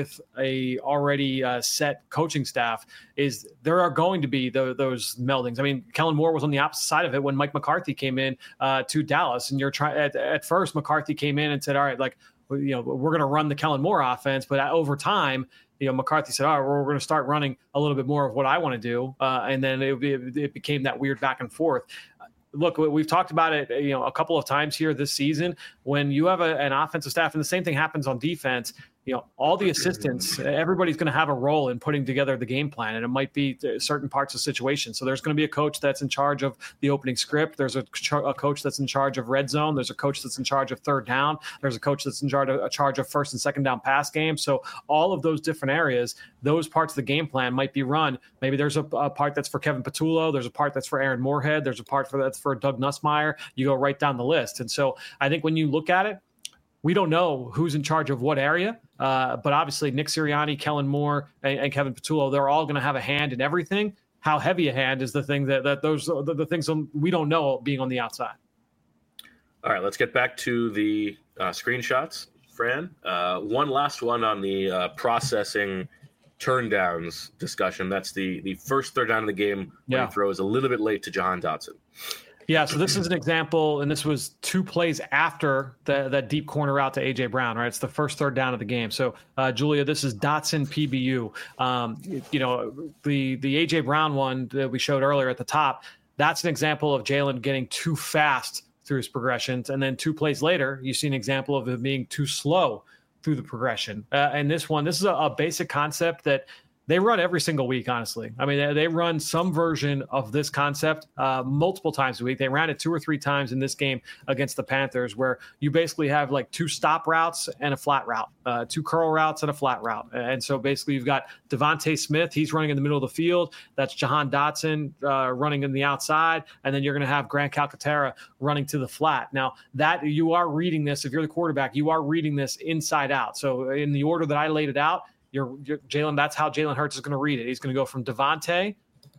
a already set coaching staff. Is there are going to be those meldings. I mean, Kellen Moore was on the opposite side of it when Mike McCarthy came in to Dallas, and at first McCarthy came in and said, all right, like we're going to run the Kellen Moore offense, but over time, McCarthy said, all right, we're going to start running a little bit more of what I want to do, and then it became that weird back and forth. Look, we've talked about it, a couple of times here this season. When you have an offensive staff, and the same thing happens on defense, all the assistants, everybody's going to have a role in putting together the game plan, and it might be certain parts of situations. So there's going to be a coach that's in charge of the opening script. There's a coach that's in charge of red zone. There's a coach that's in charge of third down. There's a coach that's in charge of first and second down pass game. So all of those different areas, those parts of the game plan might be run. Maybe there's a part that's for Kevin Patullo. There's a part that's for Aaron Moorhead. There's a part that's for Doug Nussmeier. You go right down the list. And so I think when you look at it, we don't know who's in charge of what area, but obviously Nick Sirianni, Kellen Moore, and Kevin Patullo, they're all going to have a hand in everything. How heavy a hand is the thing the things we don't know being on the outside. All right, let's get back to the screenshots, Fran. One last one on the processing turndowns discussion. That's the first third down of the game when he throws a little bit late to Jahan Dotson. Yeah, so this is an example, and this was 2 plays after that deep corner out to A.J. Brown, right? It's the first third down of the game. So, Julia, this is Dotson PBU. The A.J. Brown one that we showed earlier at the top, that's an example of Jalen getting too fast through his progressions. And then 2 plays later, you see an example of him being too slow through the progression. And this is a basic concept that they run every single week, honestly. I mean, they run some version of this concept multiple times a week. They ran it 2 or 3 times in this game against the Panthers, where you basically have like 2 stop routes and a flat route, 2 curl routes and a flat route. And so basically you've got Devontae Smith. He's running in the middle of the field. That's Jahan Dotson running in the outside. And then you're going to have Grant Calcaterra running to the flat. Now, that you are reading this, if you're the quarterback, you are reading this inside out. So in the order that I laid it out, Jalen, that's how Jalen Hurts is going to read it. He's going to go from Devontae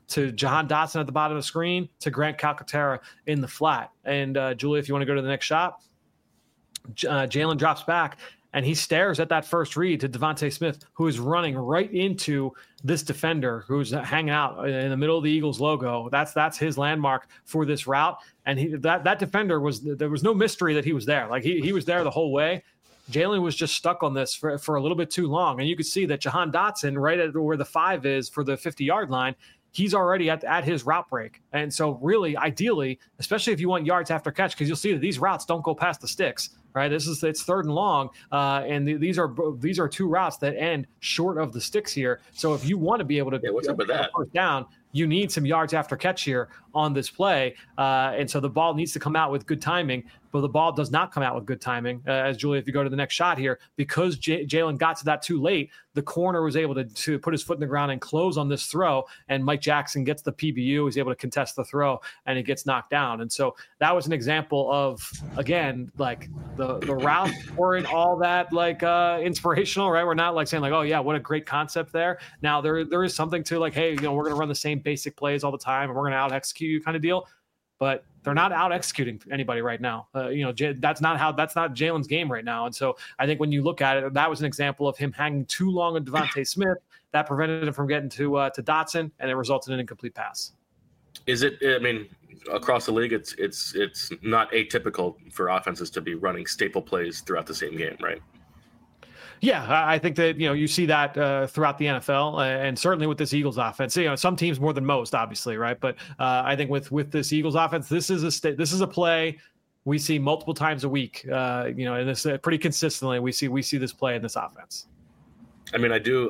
to Jahan Dotson at the bottom of the screen to Grant Calcaterra in the flat. And Julia, if you want to go to the next shot, Jalen drops back and he stares at that first read to Devontae Smith, who is running right into this defender who's hanging out in the middle of the Eagles logo. That's his landmark for this route. And that defender there was no mystery that he was there. Like he was there the whole way. Jalen was just stuck on this for a little bit too long. And you could see that Jahan Dotson, right at where the 5 is for the 50-yard line, he's already at his route break. And so really, ideally, especially if you want yards after catch, because you'll see that these routes don't go past the sticks, right? It's 3rd and long. And these are 2 routes that end short of the sticks here. So if you want to be able to what's up with that? First down, you need some yards after catch here on this play. And so the ball needs to come out with good timing, but the ball does not come out with good timing. As Julia, if you go to the next shot here, because Jalen got to that too late, the corner was able to put his foot in the ground and close on this throw, and Mike Jackson gets the PBU. He's able to contest the throw, and it gets knocked down. And so that was an example of, again, like the routes weren't all that like inspirational, right? We're not like saying like, oh yeah, what a great concept there. Now there is something to like, hey, we're going to run the same basic plays all the time, and we're going to out execute you kind of deal. But they're not out executing anybody right now. That's not Jalen's game right now. And so I think when you look at it, that was an example of him hanging too long on Devontae Smith that prevented him from getting to Dotson, and it resulted in an incomplete pass. Is it? I mean, across the league, it's not atypical for offenses to be running staple plays throughout the same game, right? Yeah, I think that you see that throughout the NFL, and certainly with this Eagles offense. Some teams more than most, obviously, right? But I think with this Eagles offense, this is a play we see multiple times a week. And this pretty consistently we see this play in this offense. I mean, I do.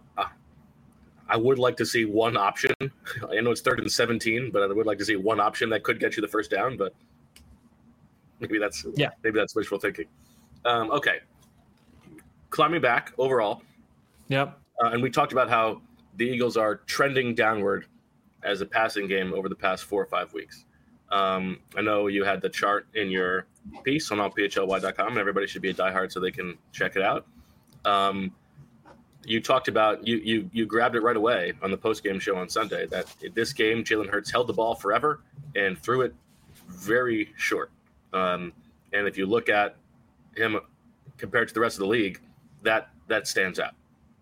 I would like to see one option. I know it's 3rd and 17, but I would like to see one option that could get you the first down. But maybe that's wishful thinking. Okay. Climbing back overall. Yep. And we talked about how the Eagles are trending downward as a passing game over the past 4 or 5 weeks. I know you had the chart in your piece on allphly.com, and everybody should be a diehard so they can check it out. You talked about you grabbed it right away on the post-game show on Sunday that in this game Jalen Hurts held the ball forever and threw it very short. And if you look at him compared to the rest of the league, that stands out.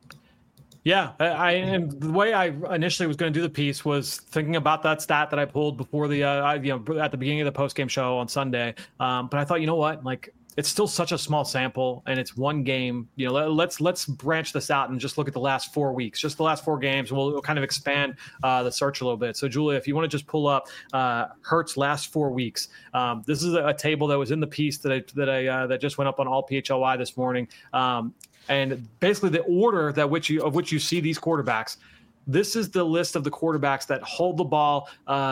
Yeah, and the way I initially was going to do the piece was thinking about that stat that I pulled before the at the beginning of the post game show on Sunday. But I thought, you know what, like it's still such a small sample, and it's one game. Let's branch this out and just look at the last 4 weeks, just the last 4 games. We'll kind of expand the search a little bit. So, Julia, if you want to just pull up Hurts last 4 weeks, this is a table that was in the piece that just went up on All PHLY this morning. And basically the order of which you see these quarterbacks, this is the list of the quarterbacks that hold the ball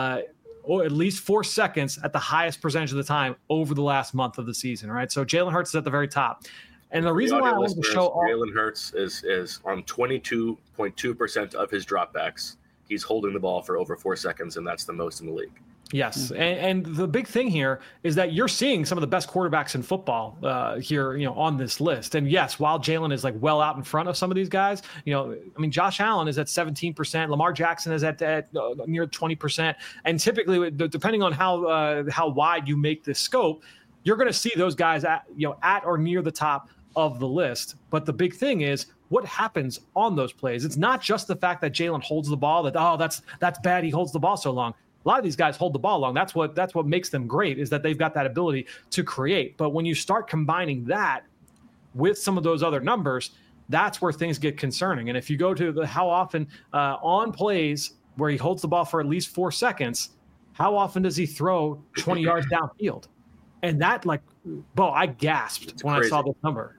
at least 4 seconds at the highest percentage of the time over the last month of the season, right? So Jalen Hurts is at the very top. And the reason why I wanted to show Jalen Hurts is on 22.2% of his dropbacks. He's holding the ball for over 4 seconds, and that's the most in the league. Yes, and the big thing here is that you're seeing some of the best quarterbacks in football here, on this list. And yes, while Jalen is like well out in front of some of these guys, Josh Allen is at 17%, Lamar Jackson is at near 20%, and typically, depending on how wide you make this scope, you're going to see those guys at or near the top of the list. But the big thing is what happens on those plays. It's not just the fact that Jalen holds the ball that's bad. He holds the ball so long. A lot of these guys hold the ball long. That's what makes them great, is that they've got that ability to create. But when you start combining that with some of those other numbers, that's where things get concerning. And if you go to how often on plays where he holds the ball for at least 4 seconds, how often does he throw 20 yards downfield? And that, I gasped when I saw this number.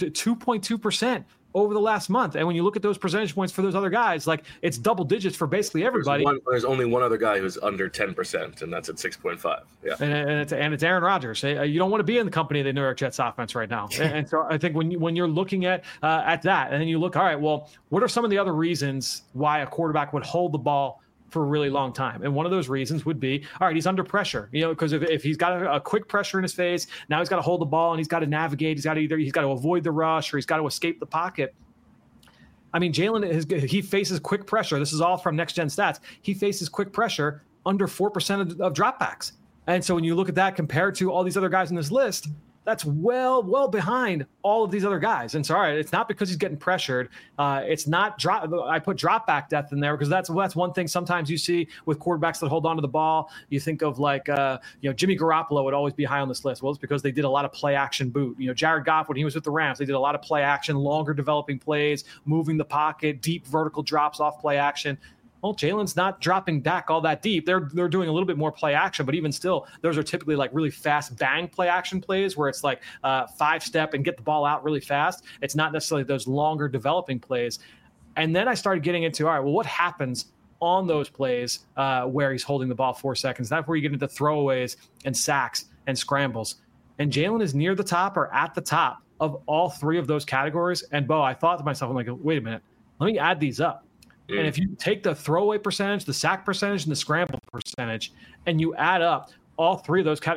2.2%. Over the last month. And when you look at those percentage points for those other guys, it's double digits for basically everybody. There's only one other guy who's under 10%, and that's at 6.5. Yeah. And it's Aaron Rodgers. You don't want to be in the company of the New York Jets offense right now. And so I think when you're looking at that, and then you look, all right, well, what are some of the other reasons why a quarterback would hold the ball for a really long time? And one of those reasons would be, all right, he's under pressure, because if he's got a quick pressure in his face, now he's got to hold the ball and he's got to navigate. He's got to avoid the rush or he's got to escape the pocket. I mean, Jalen, he faces quick pressure. This is all from Next Gen Stats. He faces quick pressure under 4% of dropbacks. And so when you look at that compared to all these other guys in this list, that's well behind all of these other guys. And so, all right, it's not because he's getting pressured. It's not I put drop back depth in there because that's one thing sometimes you see with quarterbacks that hold on to the ball. You think of like, Jimmy Garoppolo would always be high on this list. Well, it's because they did a lot of play action boot. Jared Goff, when he was with the Rams, they did a lot of play action, longer developing plays, moving the pocket, deep vertical drops off play action. Well, Jalen's not dropping back all that deep. They're doing a little bit more play action, but even still, those are typically like really fast bang play action plays where it's like 5-step and get the ball out really fast. It's not necessarily those longer developing plays. And then I started getting into, all right, well, what happens on those plays where he's holding the ball 4 seconds? That's where you get into throwaways and sacks and scrambles. And Jalen is near the top or at the top of all 3 of those categories. And Bo, I thought to myself, I'm like, wait a minute, let me add these up. And if you take the throwaway percentage, the sack percentage, and the scramble percentage, and you add up all 3 of those,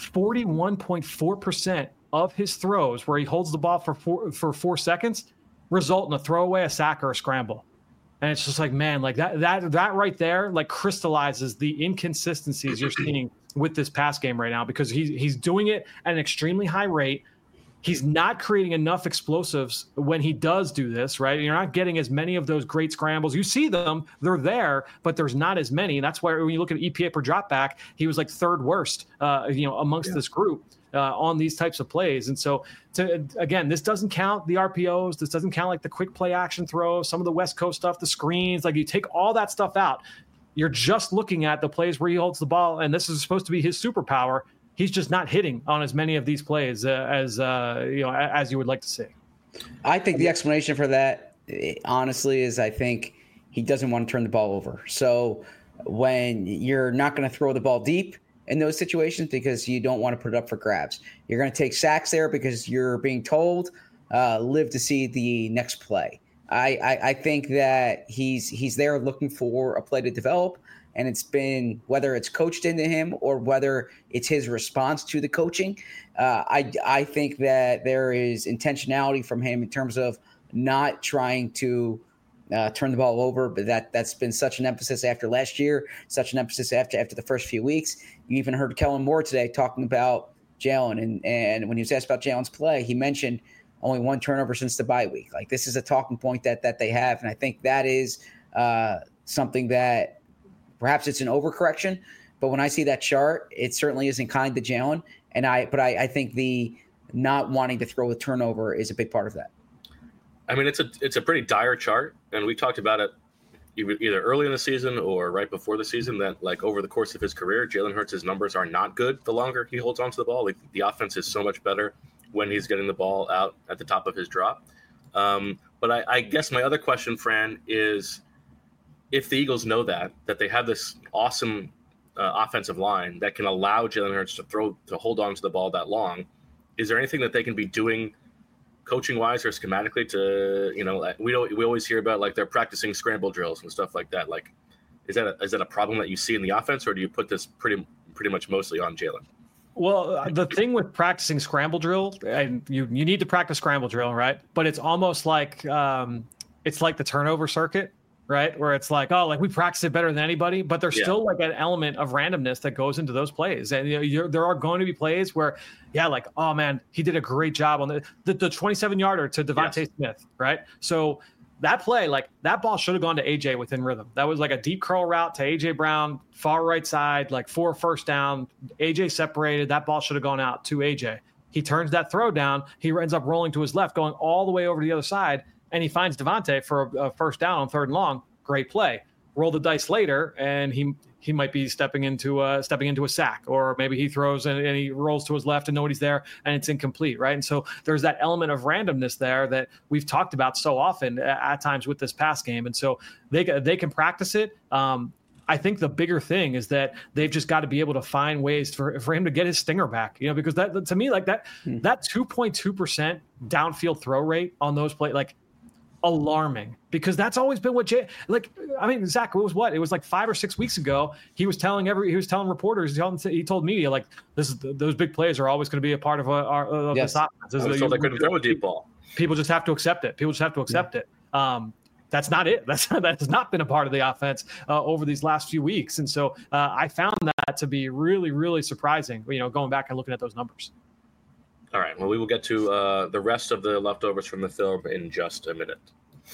41.4% of his throws where he holds the ball for 4 seconds result in a throwaway, a sack, or a scramble. And it's just like, man, like that right there, like crystallizes the inconsistencies you're seeing with this pass game right now because he's doing it at an extremely high rate. He's not creating enough explosives when he does do this, right? You're not getting as many of those great scrambles. You see them, they're there, but there's not as many. That's why when you look at EPA per drop back, he was like 3rd worst, amongst this group on these types of plays. And so, again, this doesn't count the RPOs. This doesn't count like the quick play action throws, some of the West Coast stuff, the screens. Like you take all that stuff out. You're just looking at the plays where he holds the ball, and this is supposed to be his superpower. He's just not hitting on as many of these plays as you would like to see. I think the explanation for that, honestly, is I think he doesn't want to turn the ball over. So when you're not going to throw the ball deep in those situations because you don't want to put it up for grabs, you're going to take sacks there because you're being told live to see the next play. I think that he's there looking for a play to develop. And it's been, whether it's coached into him or whether it's his response to the coaching, I think that there is intentionality from him in terms of not trying to turn the ball over. But that's been such an emphasis after last year, such an emphasis after the first few weeks. You even heard Kellen Moore today talking about Jalen. And when he was asked about Jalen's play, he mentioned only 1 turnover since the bye week. Like, this is a talking point that they have. And I think that is something that, perhaps it's an overcorrection, but when I see that chart, it certainly isn't kind to Jalen. But I think the not wanting to throw a turnover is a big part of that. I mean, it's a pretty dire chart, and we talked about it either early in the season or right before the season that, like, over the course of his career, Jalen Hurts' numbers are not good the longer he holds onto the ball. Like, the offense is so much better when he's getting the ball out at the top of his drop. But I guess my other question, Fran, is, if the Eagles know that they have this awesome offensive line that can allow Jalen Hurts to hold on to the ball that long, is there anything that they can be doing coaching wise or schematically to, we always hear about like they're practicing scramble drills and stuff like that. Like, is that a problem that you see in the offense, or do you put this pretty much mostly on Jalen? Well, the thing with practicing scramble drill, and you need to practice scramble drill, right? But it's almost like it's like the turnover circuit, right? Where it's like, oh, like we practice it better than anybody, but there's still like an element of randomness that goes into those plays. And there are going to be plays where, like, oh man, he did a great job on the 27-yarder to Devontae Smith, right? So that play, like that ball should have gone to AJ within rhythm. That was like a deep curl route to AJ Brown, far right side, like for first down. AJ separated. That ball should have gone out to AJ. He turns that throw down. He ends up rolling to his left, going all the way over to the other side. And he finds Devontae for a first down on 3rd and long. Great play. Roll the dice later, and he might be stepping into a sack, or maybe he throws and he rolls to his left and nobody's there, and it's incomplete, right? And so there's that element of randomness there that we've talked about so often at times with this pass game, and so they can practice it. I think the bigger thing is that they've just got to be able to find ways for him to get his stinger back, because that to me, like that 2.2% downfield throw rate on those plays, like, alarming, because that's always been what Zach, it was like 5 or 6 weeks ago, he was telling reporters, he told media, like, those big plays are always going to be a part of this offense. So they couldn't throw a deep ball. People just have to accept it. that's not it. That has not been a part of the offense over these last few weeks. And so I found that to be really, really surprising, going back and looking at those numbers. All right. Well, we will get to the rest of the leftovers from the film in just a minute.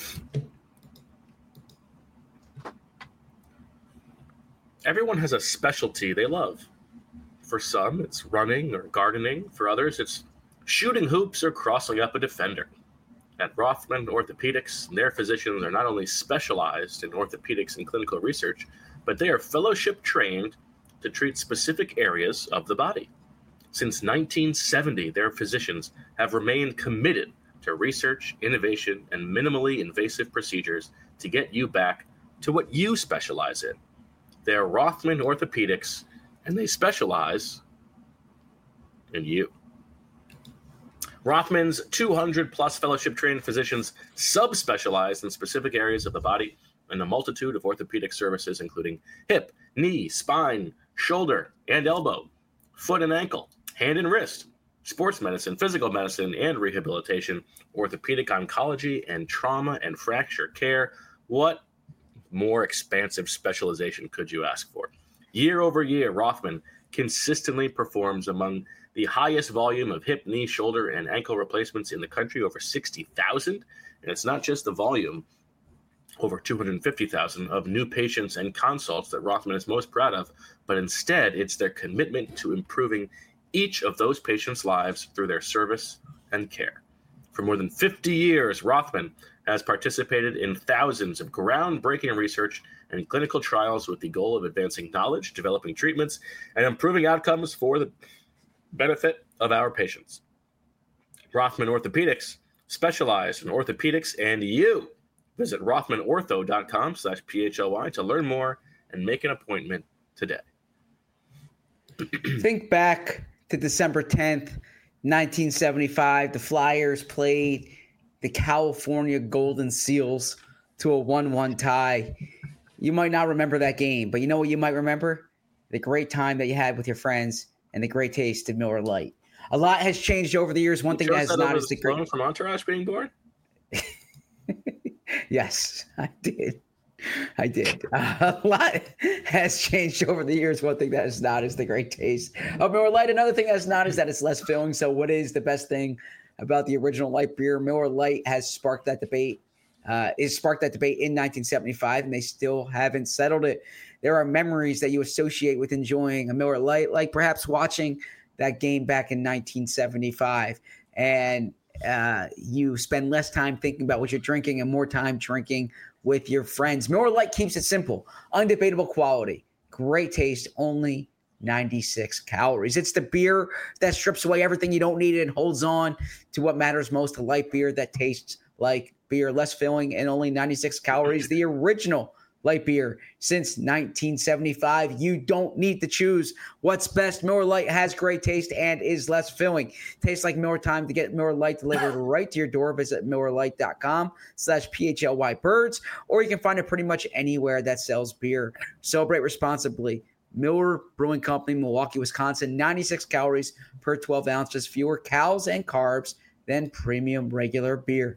Everyone has a specialty they love. For some, it's running or gardening. For others, it's shooting hoops or crossing up a defender. At Rothman Orthopedics, their physicians are not only specialized in orthopedics and clinical research, but they are fellowship trained to treat specific areas of the body. Since 1970, their physicians have remained committed to research, innovation, and minimally invasive procedures to get you back to what you specialize in. They're Rothman Orthopedics, and they specialize in you. Rothman's 200-plus fellowship-trained physicians subspecialize in specific areas of the body and a multitude of orthopedic services, including hip, knee, spine, shoulder, and elbow, foot and ankle, hand and wrist, sports medicine, physical medicine, and rehabilitation, orthopedic oncology, and trauma and fracture care. What more expansive specialization could you ask for? Year over year, Rothman consistently performs among the highest volume of hip, knee, shoulder, and ankle replacements in the country, over 60,000. And it's not just the volume, over 250,000 of new patients and consults that Rothman is most proud of, but instead it's their commitment to improving each of those patients' lives through their service and care. For more than 50 years, Rothman has participated in thousands of groundbreaking research and clinical trials with the goal of advancing knowledge, developing treatments, and improving outcomes for the benefit of our patients. Rothman Orthopedics specialize in orthopedics and you. Visit rothmanortho.com/PHLY to learn more and make an appointment today. Think back to December 10th, 1975. The Flyers played the California Golden Seals to a 1-1 tie. You might not remember that game, but you know what you might remember? The great time that you had with your friends and the great taste of Miller Lite. A lot has changed over the years. One thing that has not is the great from Entourage being born. Yes, I did. A lot has changed over the years. One thing that is not is the great taste of Miller Lite. Another thing that's not is that it's less filling. So what is the best thing about the original light beer? Miller Lite has sparked that debate. It sparked that debate in 1975, and they still haven't settled it. There are memories that you associate with enjoying a Miller Lite, like perhaps watching that game back in 1975. And you spend less time thinking about what you're drinking and more time drinking with your friends. Miller Lite keeps it simple, undebatable quality, great taste, only 96 calories. It's the beer that strips away everything you don't need and holds on to what matters most, a light beer that tastes like beer, less filling, and only 96 calories. The original light beer since 1975. You don't need to choose what's best. Miller Lite has great taste and is less filling. Tastes like Miller time. To get Miller Lite delivered right to your door, visit MillerLite.com/PHLYBirds, or you can find it pretty much anywhere that sells beer. Celebrate responsibly. Miller Brewing Company, Milwaukee, Wisconsin. 96 calories per 12 ounces, fewer calories and carbs than premium regular beer.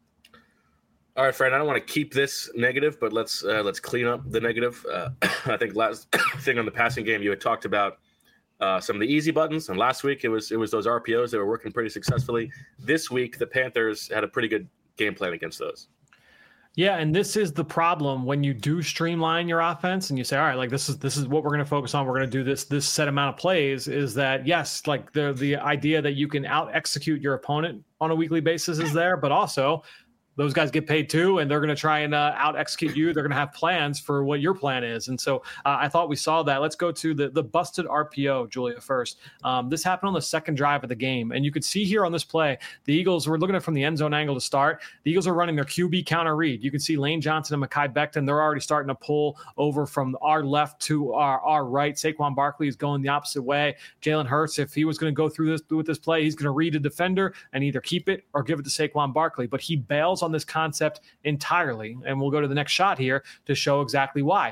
All right, Fred, I don't want to keep this negative, but let's clean up the negative. I think last thing on the passing game, you had talked about some of the easy buttons, and last week it was those RPOs that were working pretty successfully. This week, the Panthers had a pretty good game plan against those. Yeah, and this is the problem when you do streamline your offense and you say, all right, like this is what we're going to focus on. We're going to do this set amount of plays. Is that yes, like the idea that you can out execute your opponent on a weekly basis is there, but also those guys get paid too, and they're going to try and out execute you. They're going to have plans for what your plan is. And so I thought we saw that. Let's go to the busted RPO, Julia, first. This happened on the second drive of the game. And you could see here on this play, the Eagles were looking at it from the end zone angle to start. The Eagles are running their QB counter read. You can see Lane Johnson and Mekhi Becton. They're already starting to pull over from our left to our right. Saquon Barkley is going the opposite way. Jalen Hurts, if he was going to go through this with this play, he's going to read a defender and either keep it or give it to Saquon Barkley. But he bails on this concept entirely, and we'll go to the next shot here to show exactly why.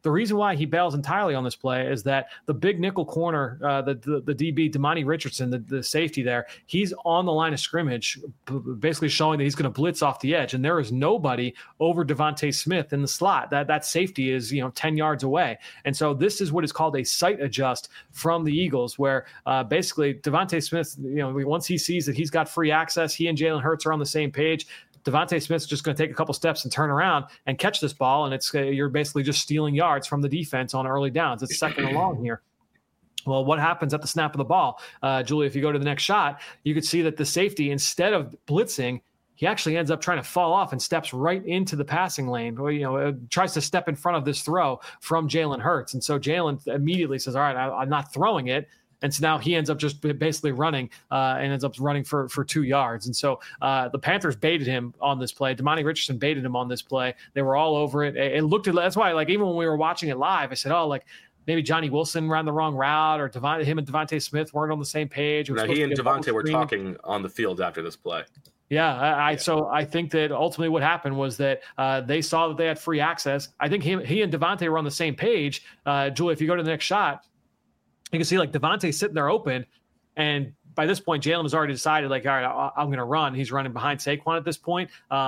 The reason why he bails entirely on this play is that the big nickel corner, the DB, Damani Richardson, the safety there, he's on the line of scrimmage, basically showing that he's going to blitz off the edge. And there is nobody over Devontae Smith in the slot. That safety is, 10 yards away. And so this is what is called a sight adjust from the Eagles, where basically Devontae Smith, once he sees that he's got free access, he and Jalen Hurts are on the same page. Devontae Smith's just going to take a couple steps and turn around and catch this ball, and you're basically just stealing yards from the defense on early downs. It's second and long here. Well, what happens at the snap of the ball? Julie, if you go to the next shot, you could see that the safety, instead of blitzing, he actually ends up trying to fall off and steps right into the passing lane, or, tries to step in front of this throw from Jalen Hurts. And so Jalen immediately says, all right, I'm not throwing it. And so now he ends up just basically running and ends up running for 2 yards. And so the Panthers baited him on this play. Damani Richardson baited him on this play. They were all over it. It looked at, that's why, even when we were watching it live, I said, maybe Johnny Wilson ran the wrong route, or him and Devontae Smith weren't on the same page. Now, he and Devontae were talking on the field after this play. Yeah, So I think that ultimately what happened was that they saw that they had free access. I think he and Devontae were on the same page. Julie, if you go to the next shot, you can see Devontae sitting there open, and by this point, Jalen has already decided, all right, I'm going to run. He's running behind Saquon at this point.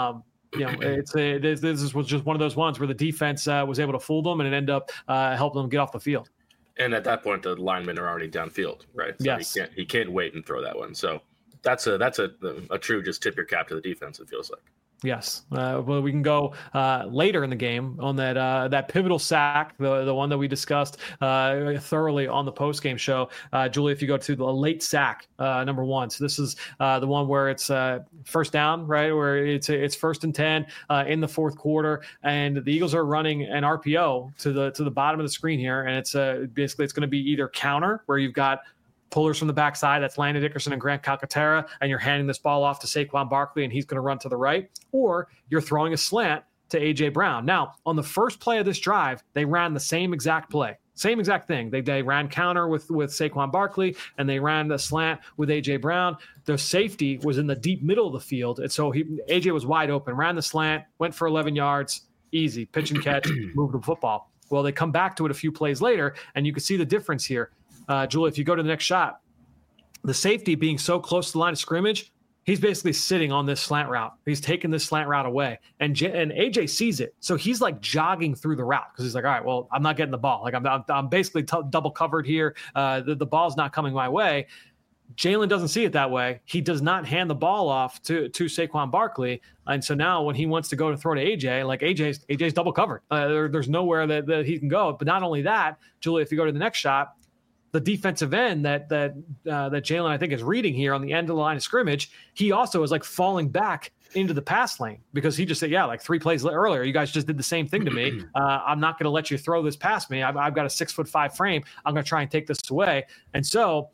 This was just one of those ones where the defense was able to fool them, and it ended up helping them get off the field. And at that point, the linemen are already downfield, right? So yes. He can't wait and throw that one. So that's a true just tip your cap to the defense, it feels like. Yes. Well, we can go later in the game on that pivotal sack, the one that we discussed thoroughly on the postgame show. Julie, if you go to the late sack, number 1. So this is the one where it's first down, right? Where it's 1st and 10 in the fourth quarter, and the Eagles are running an RPO to the bottom of the screen here, and it's basically it's going to be either counter, where you've got pullers from the backside, that's Landon Dickerson and Grant Calcaterra, and you're handing this ball off to Saquon Barkley, and he's going to run to the right, or you're throwing a slant to A.J. Brown. Now, on the first play of this drive, they ran the same exact play. Same exact thing. They ran counter with Saquon Barkley, and they ran the slant with A.J. Brown. The safety was in the deep middle of the field, and so A.J. was wide open, ran the slant, went for 11 yards, easy, pitch and catch, moved the football. Well, they come back to it a few plays later, and you can see the difference here. Julie, if you go to the next shot, the safety being so close to the line of scrimmage, he's basically sitting on this slant route. He's taking this slant route away, and AJ sees it, so he's jogging through the route because he's like, all right, well, I'm not getting the ball. I'm basically double covered here. The ball's not coming my way. Jalen doesn't see it that way. He does not hand the ball off to Saquon Barkley. And so now when he wants to go to throw to AJ, AJ's double covered. There's nowhere that he can go. But not only that, Julie, if you go to the next shot, the defensive end that Jalen, I think, is reading here on the end of the line of scrimmage, he also is falling back into the pass lane because he just said, 3 plays earlier, you guys just did the same thing to me. I'm not going to let you throw this past me. I've got a 6'5" frame. I'm going to try and take this away. And so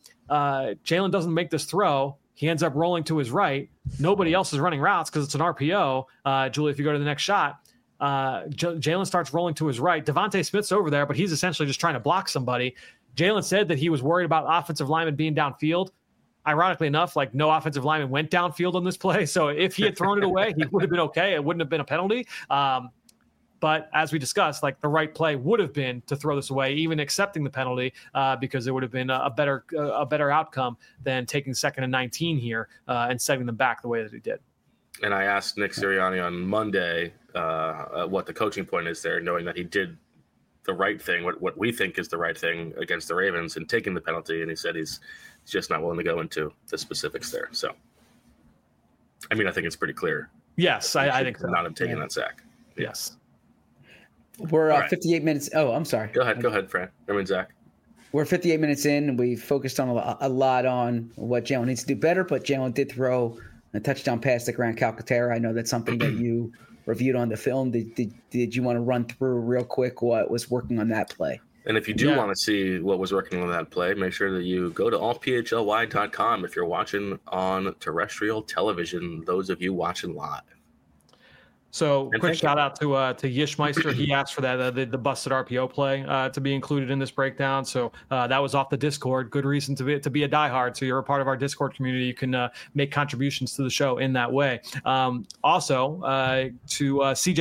Jalen doesn't make this throw. He ends up rolling to his right. Nobody else is running routes because it's an RPO. Julie, if you go to the next shot, Jalen starts rolling to his right. Devontae Smith's over there, but he's essentially just trying to block somebody. Jalen said that he was worried about offensive linemen being downfield. Ironically enough, no offensive lineman went downfield on this play. So if he had thrown it away, he would have been okay. It wouldn't have been a penalty. But as we discussed, the right play would have been to throw this away, even accepting the penalty, because it would have been a better outcome than taking 2nd and 19 here and setting them back the way that he did. And I asked Nick Sirianni on Monday what the coaching point is there, knowing that he did the right thing, what we think is the right thing against the Ravens and taking the penalty. And he said he's just not willing to go into the specifics there. So, I think it's pretty clear. Yes, I think so. Not him taking that sack. Yes. We're 58 minutes. Oh, I'm sorry. Go ahead, Fran. Zach. We're 58 minutes in, and we focused on a lot on what Jalen needs to do better, but Jalen did throw a touchdown pass to Grant Calcaterra. I know that's something that you reviewed on the film. Did you want to run through real quick what was working on that play? And if you do want to see what was working on that play, make sure that you go to allphly.com if you're watching on terrestrial television, those of you watching live. So And quick thank shout out to Yishmeister. He asked for that the busted RPO play to be included in this breakdown. So that was off the Discord. Good reason to be a diehard. So you're a part of our Discord community. You can make contributions to the show in that way. Also to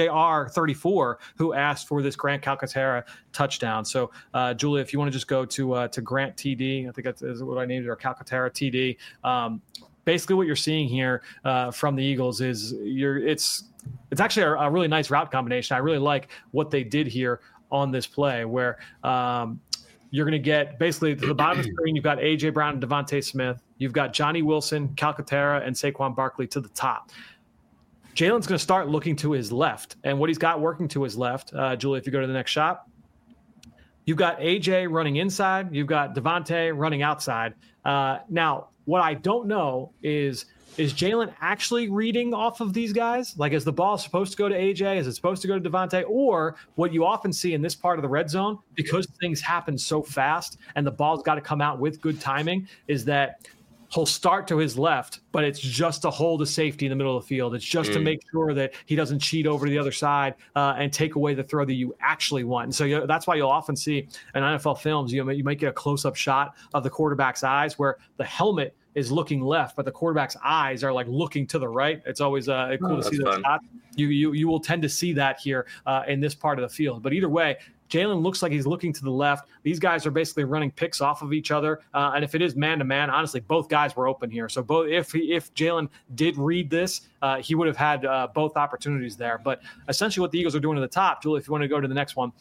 CJR34 who asked for this Grant Calcaterra touchdown. So Julia, if you want to just go to Grant TD, I think that's what I named it, or Calcaterra TD. Basically, what you're seeing here from the Eagles is it's actually a really nice route combination. I really like what they did here on this play, where you're going to get basically to the bottom of the screen. You've got AJ Brown and Devontae Smith. You've got Johnny Wilson, Calcaterra, and Saquon Barkley to the top. Jalen's going to start looking to his left, and what he's got working to his left, Julie, if you go to the next shot, you've got AJ running inside. You've got Devontae running outside. Now, what I don't know is Jalen actually reading off of these guys? Like, is the ball supposed to go to AJ? Is it supposed to go to Devontae? Or what you often see in this part of the red zone, because things happen so fast and the ball's got to come out with good timing, is that he'll start to his left, but it's just to hold a safety in the middle of the field. It's just to make sure that he doesn't cheat over to the other side and take away the throw that you actually want. And so that's why you'll often see in NFL films, you might get a close-up shot of the quarterback's eyes where the helmet is looking left, but the quarterback's eyes are like looking to the right. It's always cool to see those shots. You will tend to see that here in this part of the field. But either way, Jalen looks like he's looking to the left. These guys are basically running picks off of each other. And if it is man-to-man, honestly, both guys were open here. So if Jalen did read this, he would have had both opportunities there. But essentially what the Eagles are doing to the top, Julie, if you want to go to the next one,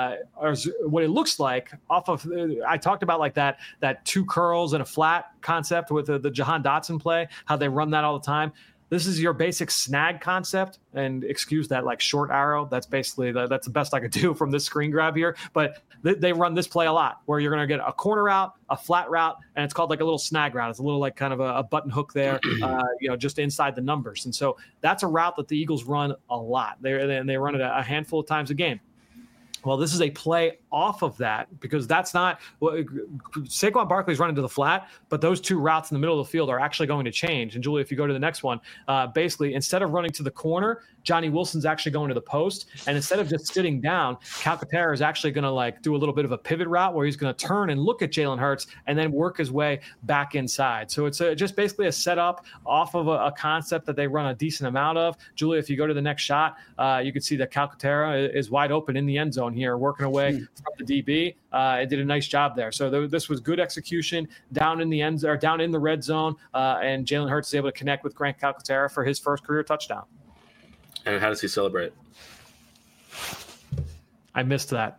what it looks like off of I talked about like that two curls and a flat concept with the Jahan Dotson play, how they run that all the time. This is your basic snag concept, and excuse that like short arrow. That's basically that's the best I could do from this screen grab here. But they run this play a lot, where you're going to get a corner route, a flat route, and it's called like a little snag route. It's a little like kind of a button hook there, just inside the numbers. And so that's a route that the Eagles run a lot. They run it a handful of times a game. Well, this is a play off of that, because that's not Saquon Barkley's running to the flat, but those two routes in the middle of the field are actually going to change. And Julie, if you go to the next one, basically instead of running to the corner, Johnny Wilson's actually going to the post. And instead of just sitting down, Calcaterra is actually going to like do a little bit of a pivot route where he's going to turn and look at Jalen Hurts and then work his way back inside. So it's just basically a setup off of a concept that they run a decent amount of. Julie, if you go to the next shot, you can see that Calcaterra is wide open in the end zone here, working away from the DB. It did a nice job there. So this was good execution down in the down in the red zone, and Jalen Hurts is able to connect with Grant Calcaterra for his first career touchdown. And how does he celebrate? I missed that.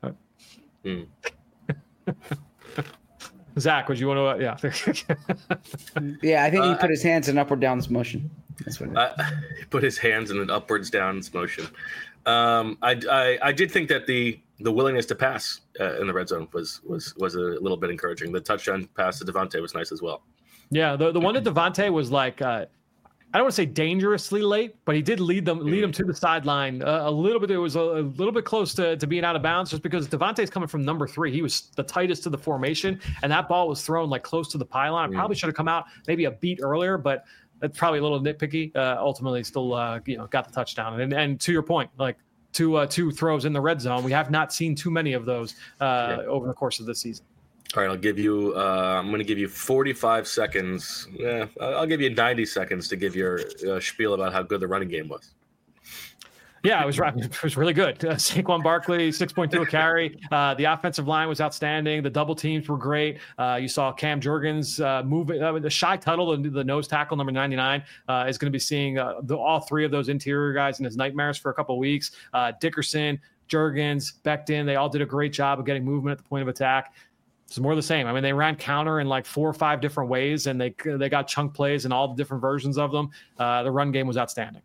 Zach, would you want to? Yeah, I think he put his hands in upward down motion. That's what he put his hands in an upwards down motion. I did think that the willingness to pass in the red zone was a little bit encouraging. The touchdown pass to Devontae was nice as well. Yeah, the one to Devontae was like I don't want to say dangerously late, but he did lead them to the sideline a little bit. It was a little bit close to being out of bounds, just because Devontae's coming from number 3. He was the tightest to the formation, and that ball was thrown like close to the pylon. It probably should have come out maybe a beat earlier, but that's probably a little nitpicky. Ultimately, still got the touchdown. And to your point, like two throws in the red zone, we have not seen too many of those over the course of the season. All right, I'll give you. I'm going to give you 45 seconds. Yeah, I'll give you 90 seconds to give your spiel about how good the running game was. Yeah, it was really good. Saquon Barkley, 6.2 a carry. The offensive line was outstanding. The double teams were great. You saw Cam Jurgens moving. The Shy Tuttle, the nose tackle, number 99, is going to be seeing all three of those interior guys in his nightmares for a couple of weeks. Dickerson, Jurgens, Becton, they all did a great job of getting movement at the point of attack. It's more of the same. I mean, they ran counter in like 4 or 5 different ways, and they got chunk plays and all the different versions of them. The run game was outstanding.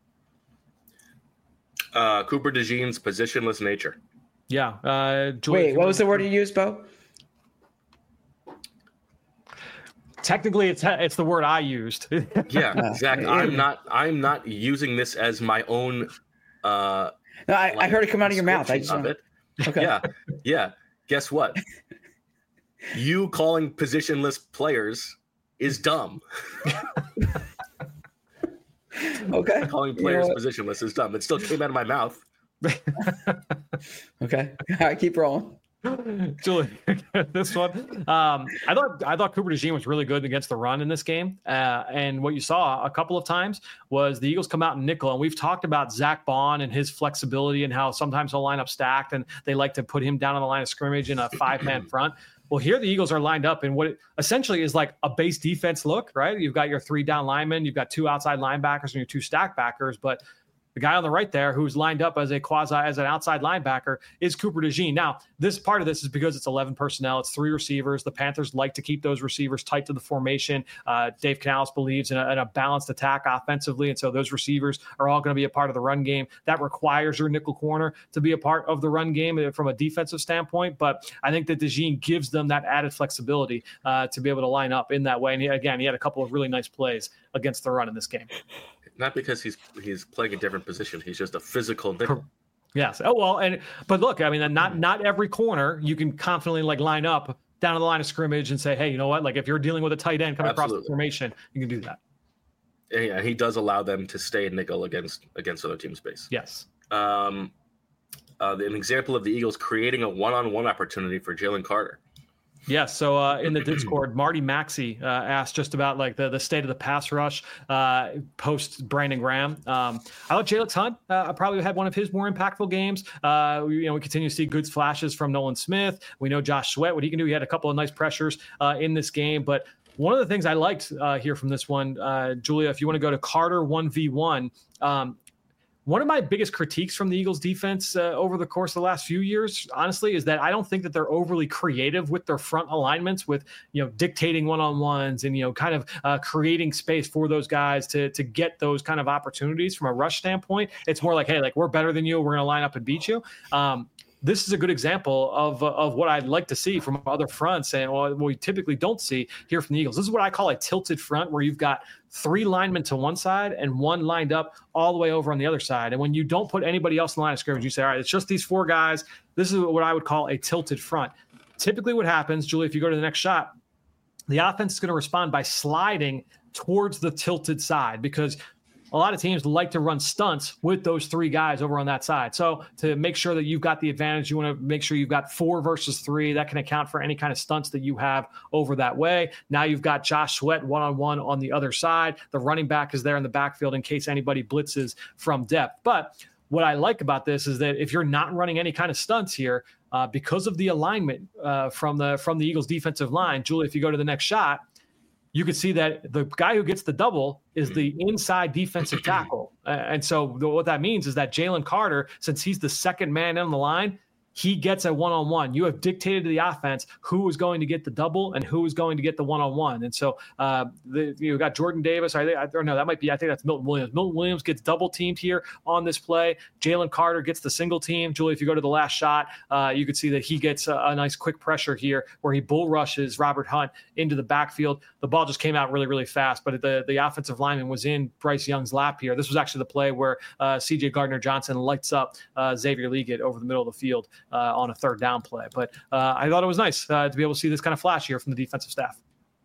Cooper DeJean's positionless nature. Yeah. Wait, what was the word you used, Bo? Technically, it's the word I used. Yeah, Zach. I'm not using this as my own. No, I heard it come out of your mouth. I just of it. Okay. Yeah. Guess what? You calling positionless players is dumb. Okay. Calling players positionless is dumb. It still came out of my mouth. Okay. All right, keep rolling. Julie, this one. I thought Cooper DeJean was really good against the run in this game. And what you saw a couple of times was the Eagles come out in nickel. And we've talked about Zach Bond and his flexibility and how sometimes he'll line up stacked and they like to put him down on the line of scrimmage in a 5-man front. Well, here the Eagles are lined up in what essentially is like a base defense look, right? You've got your 3 down linemen, you've got 2 outside linebackers and your 2 stack backers, but the guy on the right there who's lined up as an outside linebacker is Cooper DeJean. Now, this part of this is because it's 11 personnel. It's 3 receivers. The Panthers like to keep those receivers tight to the formation. Dave Canales believes in a balanced attack offensively, and so those receivers are all going to be a part of the run game. That requires your nickel corner to be a part of the run game from a defensive standpoint, but I think that DeJean gives them that added flexibility to be able to line up in that way. And he had a couple of really nice plays against the run in this game. Not because he's playing a different position. He's just a physical nickel. Yes. Oh, well, but look, I mean, not every corner you can confidently line up down to the line of scrimmage and say, hey, you know what? Like if you're dealing with a tight end coming across the formation, you can do that. Yeah, he does allow them to stay in nickel against other teams' base. Yes. An example of the Eagles creating a one-on-one opportunity for Jalen Carter. Yeah, so in the Discord, Marty Maxey asked just about like the state of the pass rush post Brandon Graham. I thought Jalen Hunt probably had one of his more impactful games. We continue to see good flashes from Nolan Smith. We know Josh Sweat, what he can do. He had a couple of nice pressures in this game, but one of the things I liked here from this one, Julia, if you want to go to Carter 1v1, one of my biggest critiques from the Eagles defense over the course of the last few years, honestly, is that I don't think that they're overly creative with their front alignments with, dictating one-on-ones and, kind of creating space for those guys to get those kind of opportunities from a rush standpoint. It's more like, hey, like we're better than you. We're going to line up and beat you. This is a good example of what I'd like to see from other fronts and what we typically don't see here from the Eagles. This is what I call a tilted front where you've got 3 linemen to one side and 1 lined up all the way over on the other side. And when you don't put anybody else in the line of scrimmage, you say, all right, it's just these 4 guys. This is what I would call a tilted front. Typically what happens, Julie, if you go to the next shot, the offense is going to respond by sliding towards the tilted side because a lot of teams like to run stunts with those 3 guys over on that side. So to make sure that you've got the advantage, you want to make sure you've got 4 versus 3. That can account for any kind of stunts that you have over that way. Now you've got Josh Sweat one-on-one on the other side. The running back is there in the backfield in case anybody blitzes from depth. But what I like about this is that if you're not running any kind of stunts here, because of the alignment from the Eagles defensive line, Julie, if you go to the next shot, you could see that the guy who gets the double is the inside defensive tackle. And so what that means is that Jalen Carter, since he's the second man on the line, he gets a one-on-one. You have dictated to the offense who is going to get the double and who is going to get the one-on-one. And so you got Jordan Davis. I think that's Milton Williams. Milton Williams gets double teamed here on this play. Jalen Carter gets the single team. Julie, if you go to the last shot, you could see that he gets a nice quick pressure here where he bull rushes Robert Hunt into the backfield. The ball just came out really, really fast, but the offensive lineman was in Bryce Young's lap here. This was actually the play where C.J. Gardner-Johnson lights up Xavier Legate over the middle of the field on a 3rd down play. But I thought it was nice to be able to see this kind of flash here from the defensive staff.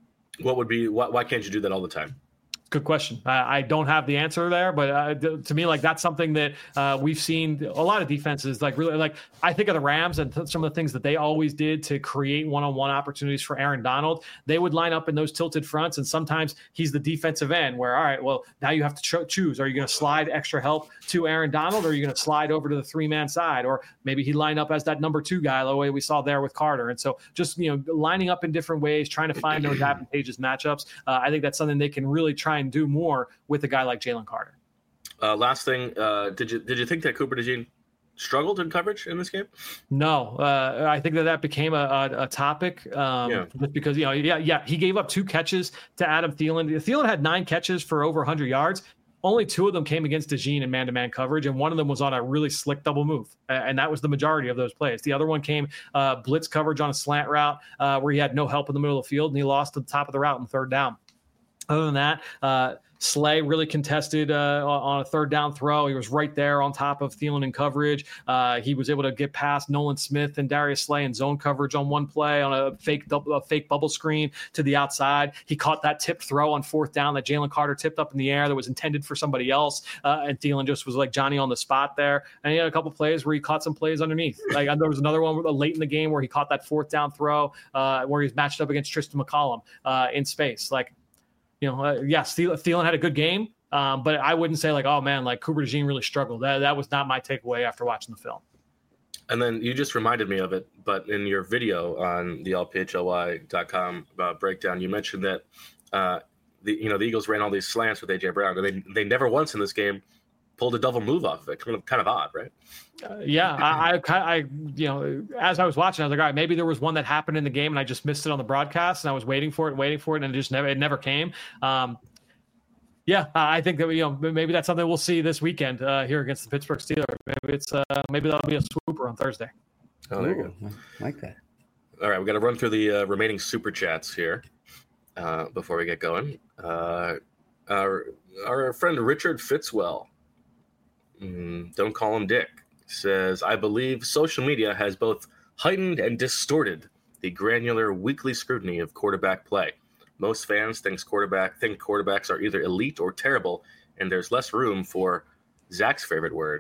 Why can't you do that all the time? Good question. I don't have the answer there, but to me, like that's something that we've seen a lot of defenses like really like. I think of the Rams and some of the things that they always did to create one-on-one opportunities for Aaron Donald. They would line up in those tilted fronts, and sometimes he's the defensive end. Where all right, well now you have to choose: are you going to slide extra help to Aaron Donald, or are you going to slide over to the 3-man side, or maybe he lined up as that number 2 guy, the way we saw there with Carter. And so just lining up in different ways, trying to find those advantageous matchups. I think that's something they can really try and do more with a guy like Jalen Carter. Last thing, did you think that Cooper DeJean struggled in coverage in this game? No, I think that became a topic just because he gave up 2 catches to Adam Thielen. Thielen had 9 catches for over 100 yards. Only 2 of them came against DeJean in man-to-man coverage, and one of them was on a really slick double move, and that was the majority of those plays. The other one came blitz coverage on a slant route where he had no help in the middle of the field, and he lost to the top of the route in 3rd down. Other than that, Slay really contested on a third down throw. He was right there on top of Thielen in coverage. He was able to get past Nolan Smith and Darius Slay in zone coverage on one play on a fake bubble screen to the outside. He caught that tipped throw on fourth down that Jalen Carter tipped up in the air that was intended for somebody else. And Thielen just was like Johnny on the spot there. And he had a couple plays where he caught some plays underneath. Like there was another one late in the game where he caught that fourth down throw where he was matched up against Tristan McCollum in space. Like, yes, Thielen had a good game, but I wouldn't say like, oh man, like Cooper DeJean really struggled. That was not my takeaway after watching the film. And then you just reminded me of it, but in your video on the lphly.com breakdown, you mentioned that the Eagles ran all these slants with AJ Brown, and they never once in this game pulled a double move off of it. Kind of odd, right? I as I was watching, I was like, all right, maybe there was one that happened in the game and I just missed it on the broadcast, and I was waiting for it, and it never came. I think that maybe that's something we'll see this weekend here against the Pittsburgh Steelers. Maybe that'll be a swooper on Thursday. Oh, there you go. I like that. All right, we got to run through the remaining super chats here before we get going. Our friend Richard Fitzwell, don't call him Dick, says, I believe social media has both heightened and distorted the granular weekly scrutiny of quarterback play. Most fans think quarterbacks are either elite or terrible, and there's less room for Zach's favorite word,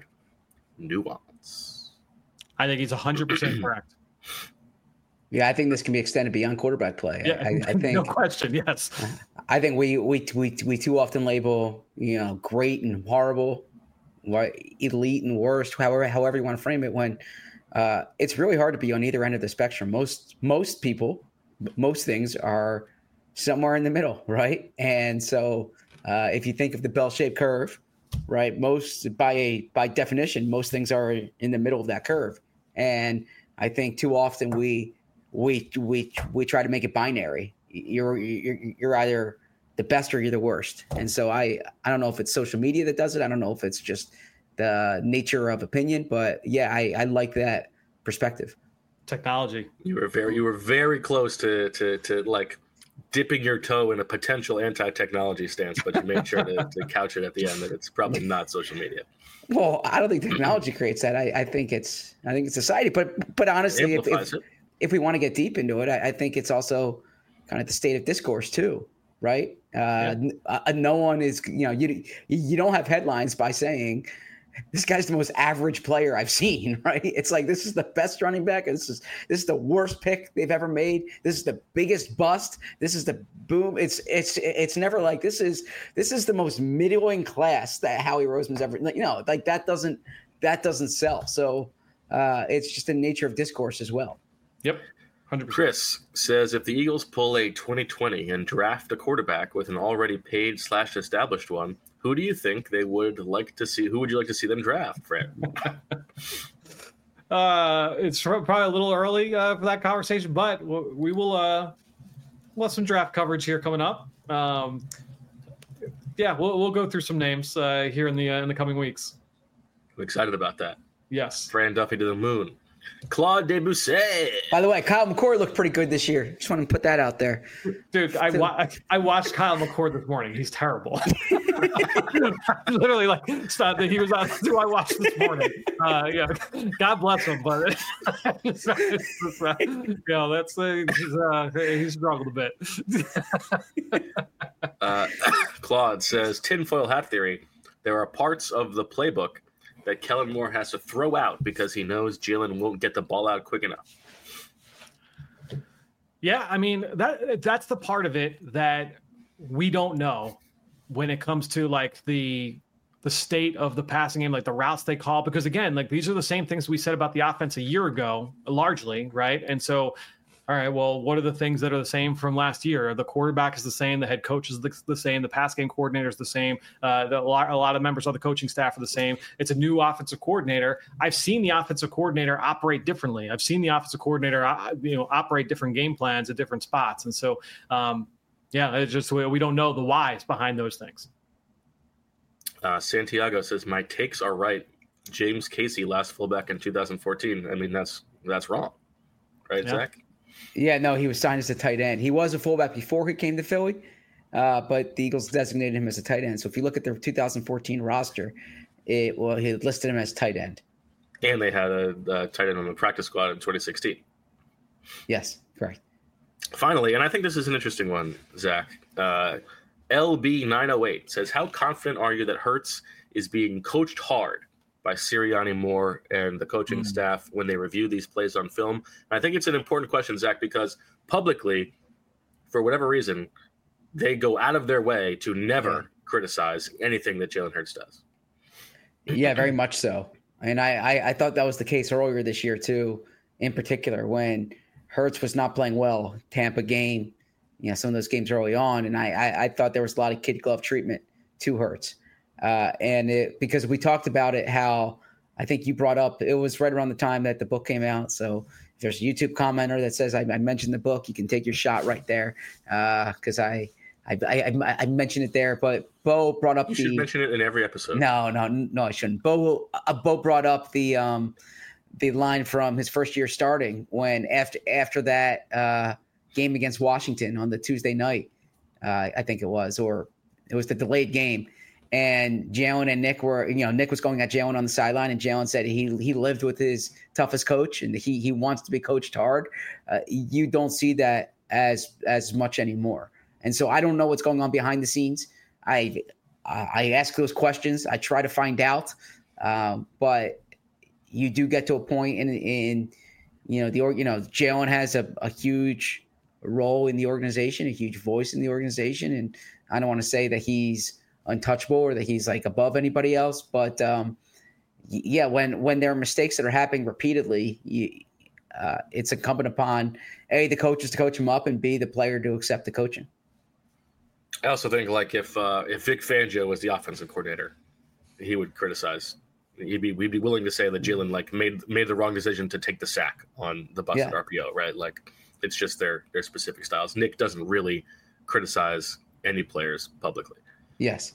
nuance. I think he's 100% correct. Yeah, I think this can be extended beyond quarterback play. Yeah, I think no question. Yes, I think we too often label great and horrible, elite and worst, however you want to frame it. When it's really hard to be on either end of the spectrum. Most people, most things are somewhere in the middle, right? And so if you think of the bell-shaped curve, right, by definition, most things are in the middle of that curve. And I think too often we try to make it binary. You're either the best or you're the worst. And so I don't know if it's social media that does it. I don't know if it's just the nature of opinion, but yeah, I like that perspective. Technology. You were very close to like dipping your toe in a potential anti-technology stance, but you made sure to couch it at the end that it's probably not social media. Well, I don't think technology creates that. I think it's society. But honestly, if we want to get deep into it, I think it's also kind of the state of discourse too, right? No one is, you don't have headlines by saying this guy's the most average player I've seen, right? It's like, this is the best running back. This is the worst pick they've ever made. This is the biggest bust. This is the boom. It's never like this is the most middling class that Howie Roseman's ever, like that doesn't sell. So it's just the nature of discourse as well. Yep. 100%. Chris says, if the Eagles pull a 2020 and draft a quarterback with an already paid / established one, who do you think they would like to see? Who would you like to see them draft, Fred? It's probably a little early for that conversation, but we will we'll have some draft coverage here coming up. We'll go through some names here in the coming weeks. I'm excited about that. Yes. Fran Duffy to the moon. Claude Debussy. By the way, Kyle McCord looked pretty good this year. Just want to put that out there. Dude, I watched Kyle McCord this morning. He's terrible. Literally, stop that he was on who I watched this morning. God bless him, but he's struggled a bit. Claude says, tinfoil hat theory. There are parts of the playbook that Kellen Moore has to throw out because he knows Jalen won't get the ball out quick enough. Yeah, I mean, that's the part of it that we don't know when it comes to like the state of the passing game, like the routes they call, because again, like these are the same things we said about the offense a year ago, largely, right? And so, all right, well, what are the things that are the same from last year? The quarterback is the same, the head coach is the same, the pass game coordinator is the same, a lot of members of the coaching staff are the same. It's a new offensive coordinator. I've seen the offensive coordinator operate differently. I've seen the offensive coordinator, operate different game plans at different spots, and so, it's just we don't know the whys behind those things. Santiago says my takes are right. James Casey, last fullback in 2014. I mean, that's wrong, right, yeah. Zach? Yeah, no, he was signed as a tight end. He was a fullback before he came to Philly. but the Eagles designated him as a tight end. So if you look at their 2014 roster, he listed him as tight end. And they had a tight end on the practice squad in 2016. Yes, correct. Finally, and I think this is an interesting one, Zach. LB908 says, how confident are you that Hurts is being coached hard by Sirianni Moore and the coaching staff when they review these plays on film? And I think it's an important question, Zach, because publicly, for whatever reason, they go out of their way to never criticize anything that Jalen Hurts does. Yeah, very much so. And I thought that was the case earlier this year, too, in particular, when Hurts was not playing well. Tampa game, some of those games early on. And I thought there was a lot of kid glove treatment to Hurts. Because we talked about it, how I think you brought up, it was right around the time that the book came out. So if there's a YouTube commenter that says I mentioned the book, you can take your shot right there. Because I mentioned it there, but Bo brought up You should mention it in every episode. No, I shouldn't. Bo brought up the line from his first year starting when after that game against Washington on the Tuesday night, I think it was, or it was the delayed game. And Jalen and Nick were, Nick was going at Jalen on the sideline, and Jalen said he lived with his toughest coach and he wants to be coached hard. You don't see that as much anymore. And so I don't know what's going on behind the scenes. I ask those questions. I try to find out. But you do get to a point in Jalen has a huge role in the organization, a huge voice in the organization. And I don't want to say that he's untouchable or that he's like above anybody else. But when there are mistakes that are happening repeatedly, it's incumbent upon A, the coaches to coach him up, and B, the player to accept the coaching. I also think like if Vic Fangio was the offensive coordinator, he would criticize. We'd be willing to say that Jalen made the wrong decision to take the sack on the busted RPO, right? Like it's just their specific styles. Nick doesn't really criticize any players publicly. Yes.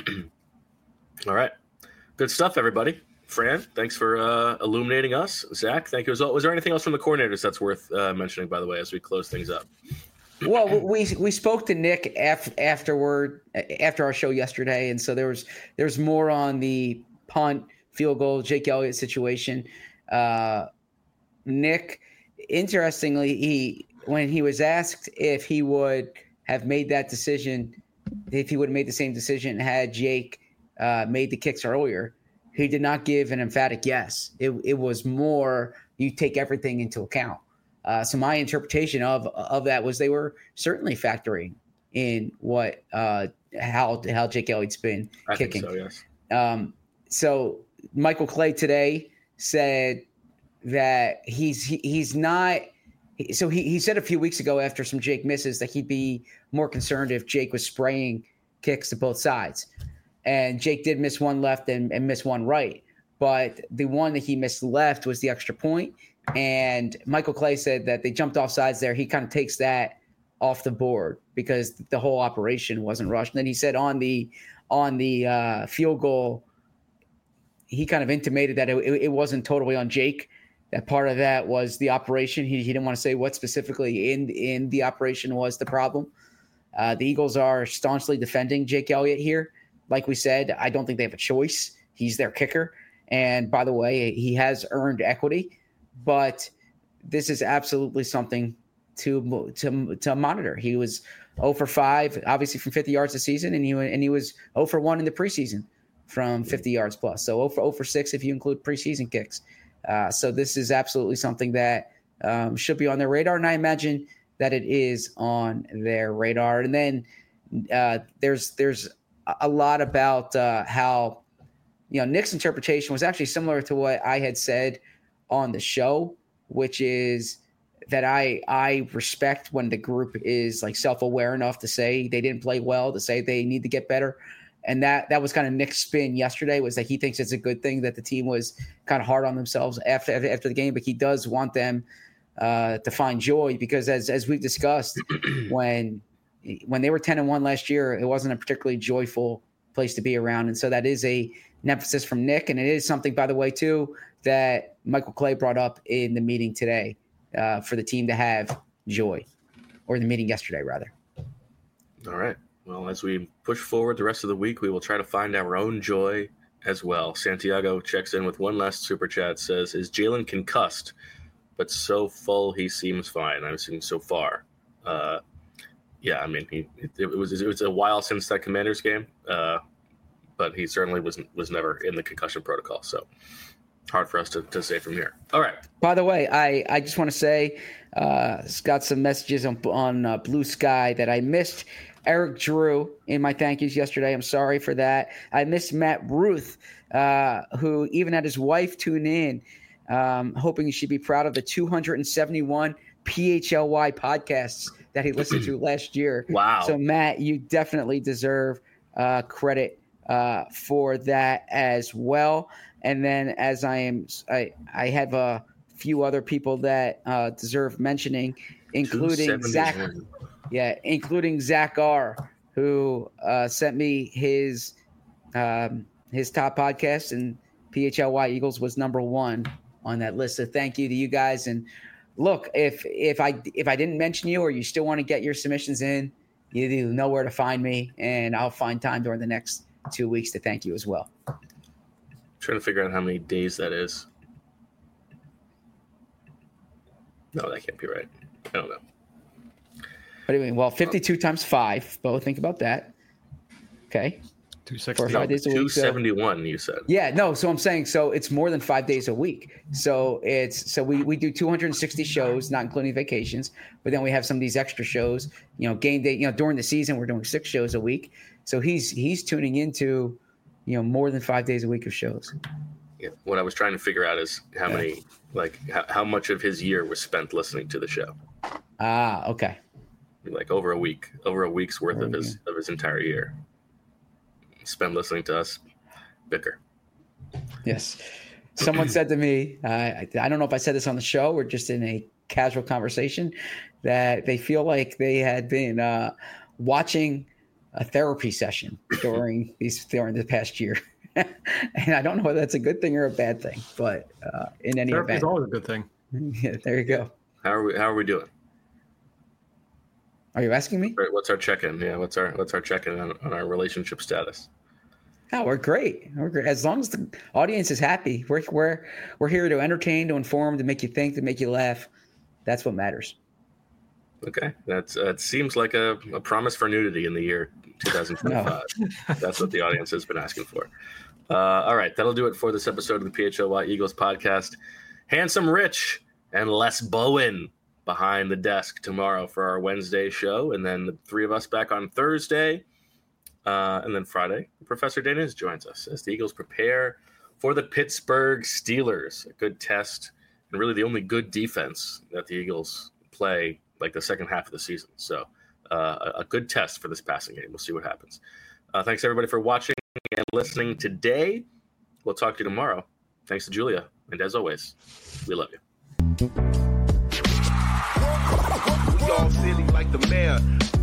All right. Good stuff, everybody. Fran, thanks for illuminating us. Zach, thank you as well. Was there anything else from the coordinators that's worth mentioning, by the way, as we close things up? Well, we spoke to Nick after our show yesterday, and so there's more on the punt, field goal, Jake Elliott situation. Nick, interestingly, when he was asked if he would have made that decision, if he would have made the same decision had Jake made the kicks earlier, he did not give an emphatic yes. It was more you take everything into account. So my interpretation of that was they were certainly factoring in what how Jake Elliott's been kicking. I think so, yes. So Michael Clay today said that he's not. So he said a few weeks ago after some Jake misses that he'd be more concerned if Jake was spraying kicks to both sides. And Jake did miss one left and miss one right. But the one that he missed left was the extra point. And Michael Clay said that they jumped off sides there. He kind of takes that off the board because the whole operation wasn't rushed. And then he said on the field goal, he kind of intimated that it wasn't totally on Jake. That part of that was the operation. He didn't want to say what specifically in the operation was the problem. The Eagles are staunchly defending Jake Elliott here. Like we said, I don't think they have a choice. He's their kicker. And by the way, he has earned equity. But this is absolutely something to monitor. He was 0 for 5, obviously from 50 yards this season, and he was 0 for 1 in the preseason from 50 yards plus. So 0 for 6 if you include preseason kicks. So this is absolutely something that should be on their radar, and I imagine that it is on their radar. And then there's a lot about how Nick's interpretation was actually similar to what I had said on the show, which is that I respect when the group is like self-aware enough to say they didn't play well, to say they need to get better. And that was kind of Nick's spin yesterday, was that he thinks it's a good thing that the team was kind of hard on themselves after the game, but he does want them to find joy because as we've discussed, when they were 10-1 last year, it wasn't a particularly joyful place to be around. And so that is an emphasis from Nick. And it is something, by the way, too, that Michael Clay brought up in the meeting today for the team to have joy, or the meeting yesterday, rather. All right. Well, as we push forward the rest of the week, we will try to find our own joy as well. Santiago checks in with one last super chat, says, is Jalen concussed, but so full he seems fine? I'm assuming so far. Yeah, I mean, it was a while since that Commanders game, but he certainly was never in the concussion protocol, so hard for us to say from here. All right. By the way, I just want to say, got some messages on Blue Sky that I missed Eric Drew in my thank yous yesterday. I'm sorry for that. I missed Matt Ruth, who even had his wife tune in, hoping she'd be proud of the 271 PHLY podcasts that he listened to last year. Wow. So, Matt, you definitely deserve credit for that as well. And then as I have a few other people that deserve mentioning, including Zach. Yeah, including Zach R., who sent me his top podcast, and PHLY Eagles was number 1 on that list. So thank you to you guys. And look, if I didn't mention you, or you still want to get your submissions in, you know where to find me, and I'll find time during the next 2 weeks to thank you as well. I'm trying to figure out how many days that is. No, that can't be right. I don't know. What do you mean? Well, 52 times 5. Bo, think about that. Okay. 260. 5 days a week. 271, you said. Yeah, no. So I'm saying, so it's more than 5 days a week. So we do 260 shows, not including vacations. But then we have some of these extra shows. Game day. During the season, we're doing 6 shows a week. So he's tuning into, more than 5 days a week of shows. Yeah. What I was trying to figure out is how many, how much of his year was spent listening to the show. Ah, okay. Like over a week's worth of his entire year spent listening to us bicker. Yes. Someone said to me, I don't know if I said this on the show or just in a casual conversation, that they feel like they had been watching a therapy session during the past year. And I don't know whether that's a good thing or a bad thing, but in any therapy event, is always a good thing. Yeah, there you go. How are we doing? Are you asking me? What's our check-in? Yeah, what's our check-in on our relationship status? Oh, we're great. We're great. As long as the audience is happy, we're here to entertain, to inform, to make you think, to make you laugh. That's what matters. Okay, that seems like a promise for nudity in the year 2025. No. That's what the audience has been asking for. All right, that'll do it for this episode of the PHLY Eagles podcast. Handsome Rich and Les Bowen behind the desk tomorrow for our Wednesday show, and then the 3 of us back on Thursday, and then Friday, Professor Daniz joins us as the Eagles prepare for the Pittsburgh Steelers. A good test, and really the only good defense that the Eagles play like the second half of the season. So a good test for this passing game. We'll see what happens. Thanks everybody for watching and listening today. We'll talk to you tomorrow. Thanks to Julia, and as always, we love you. Y'all silly like the mayor.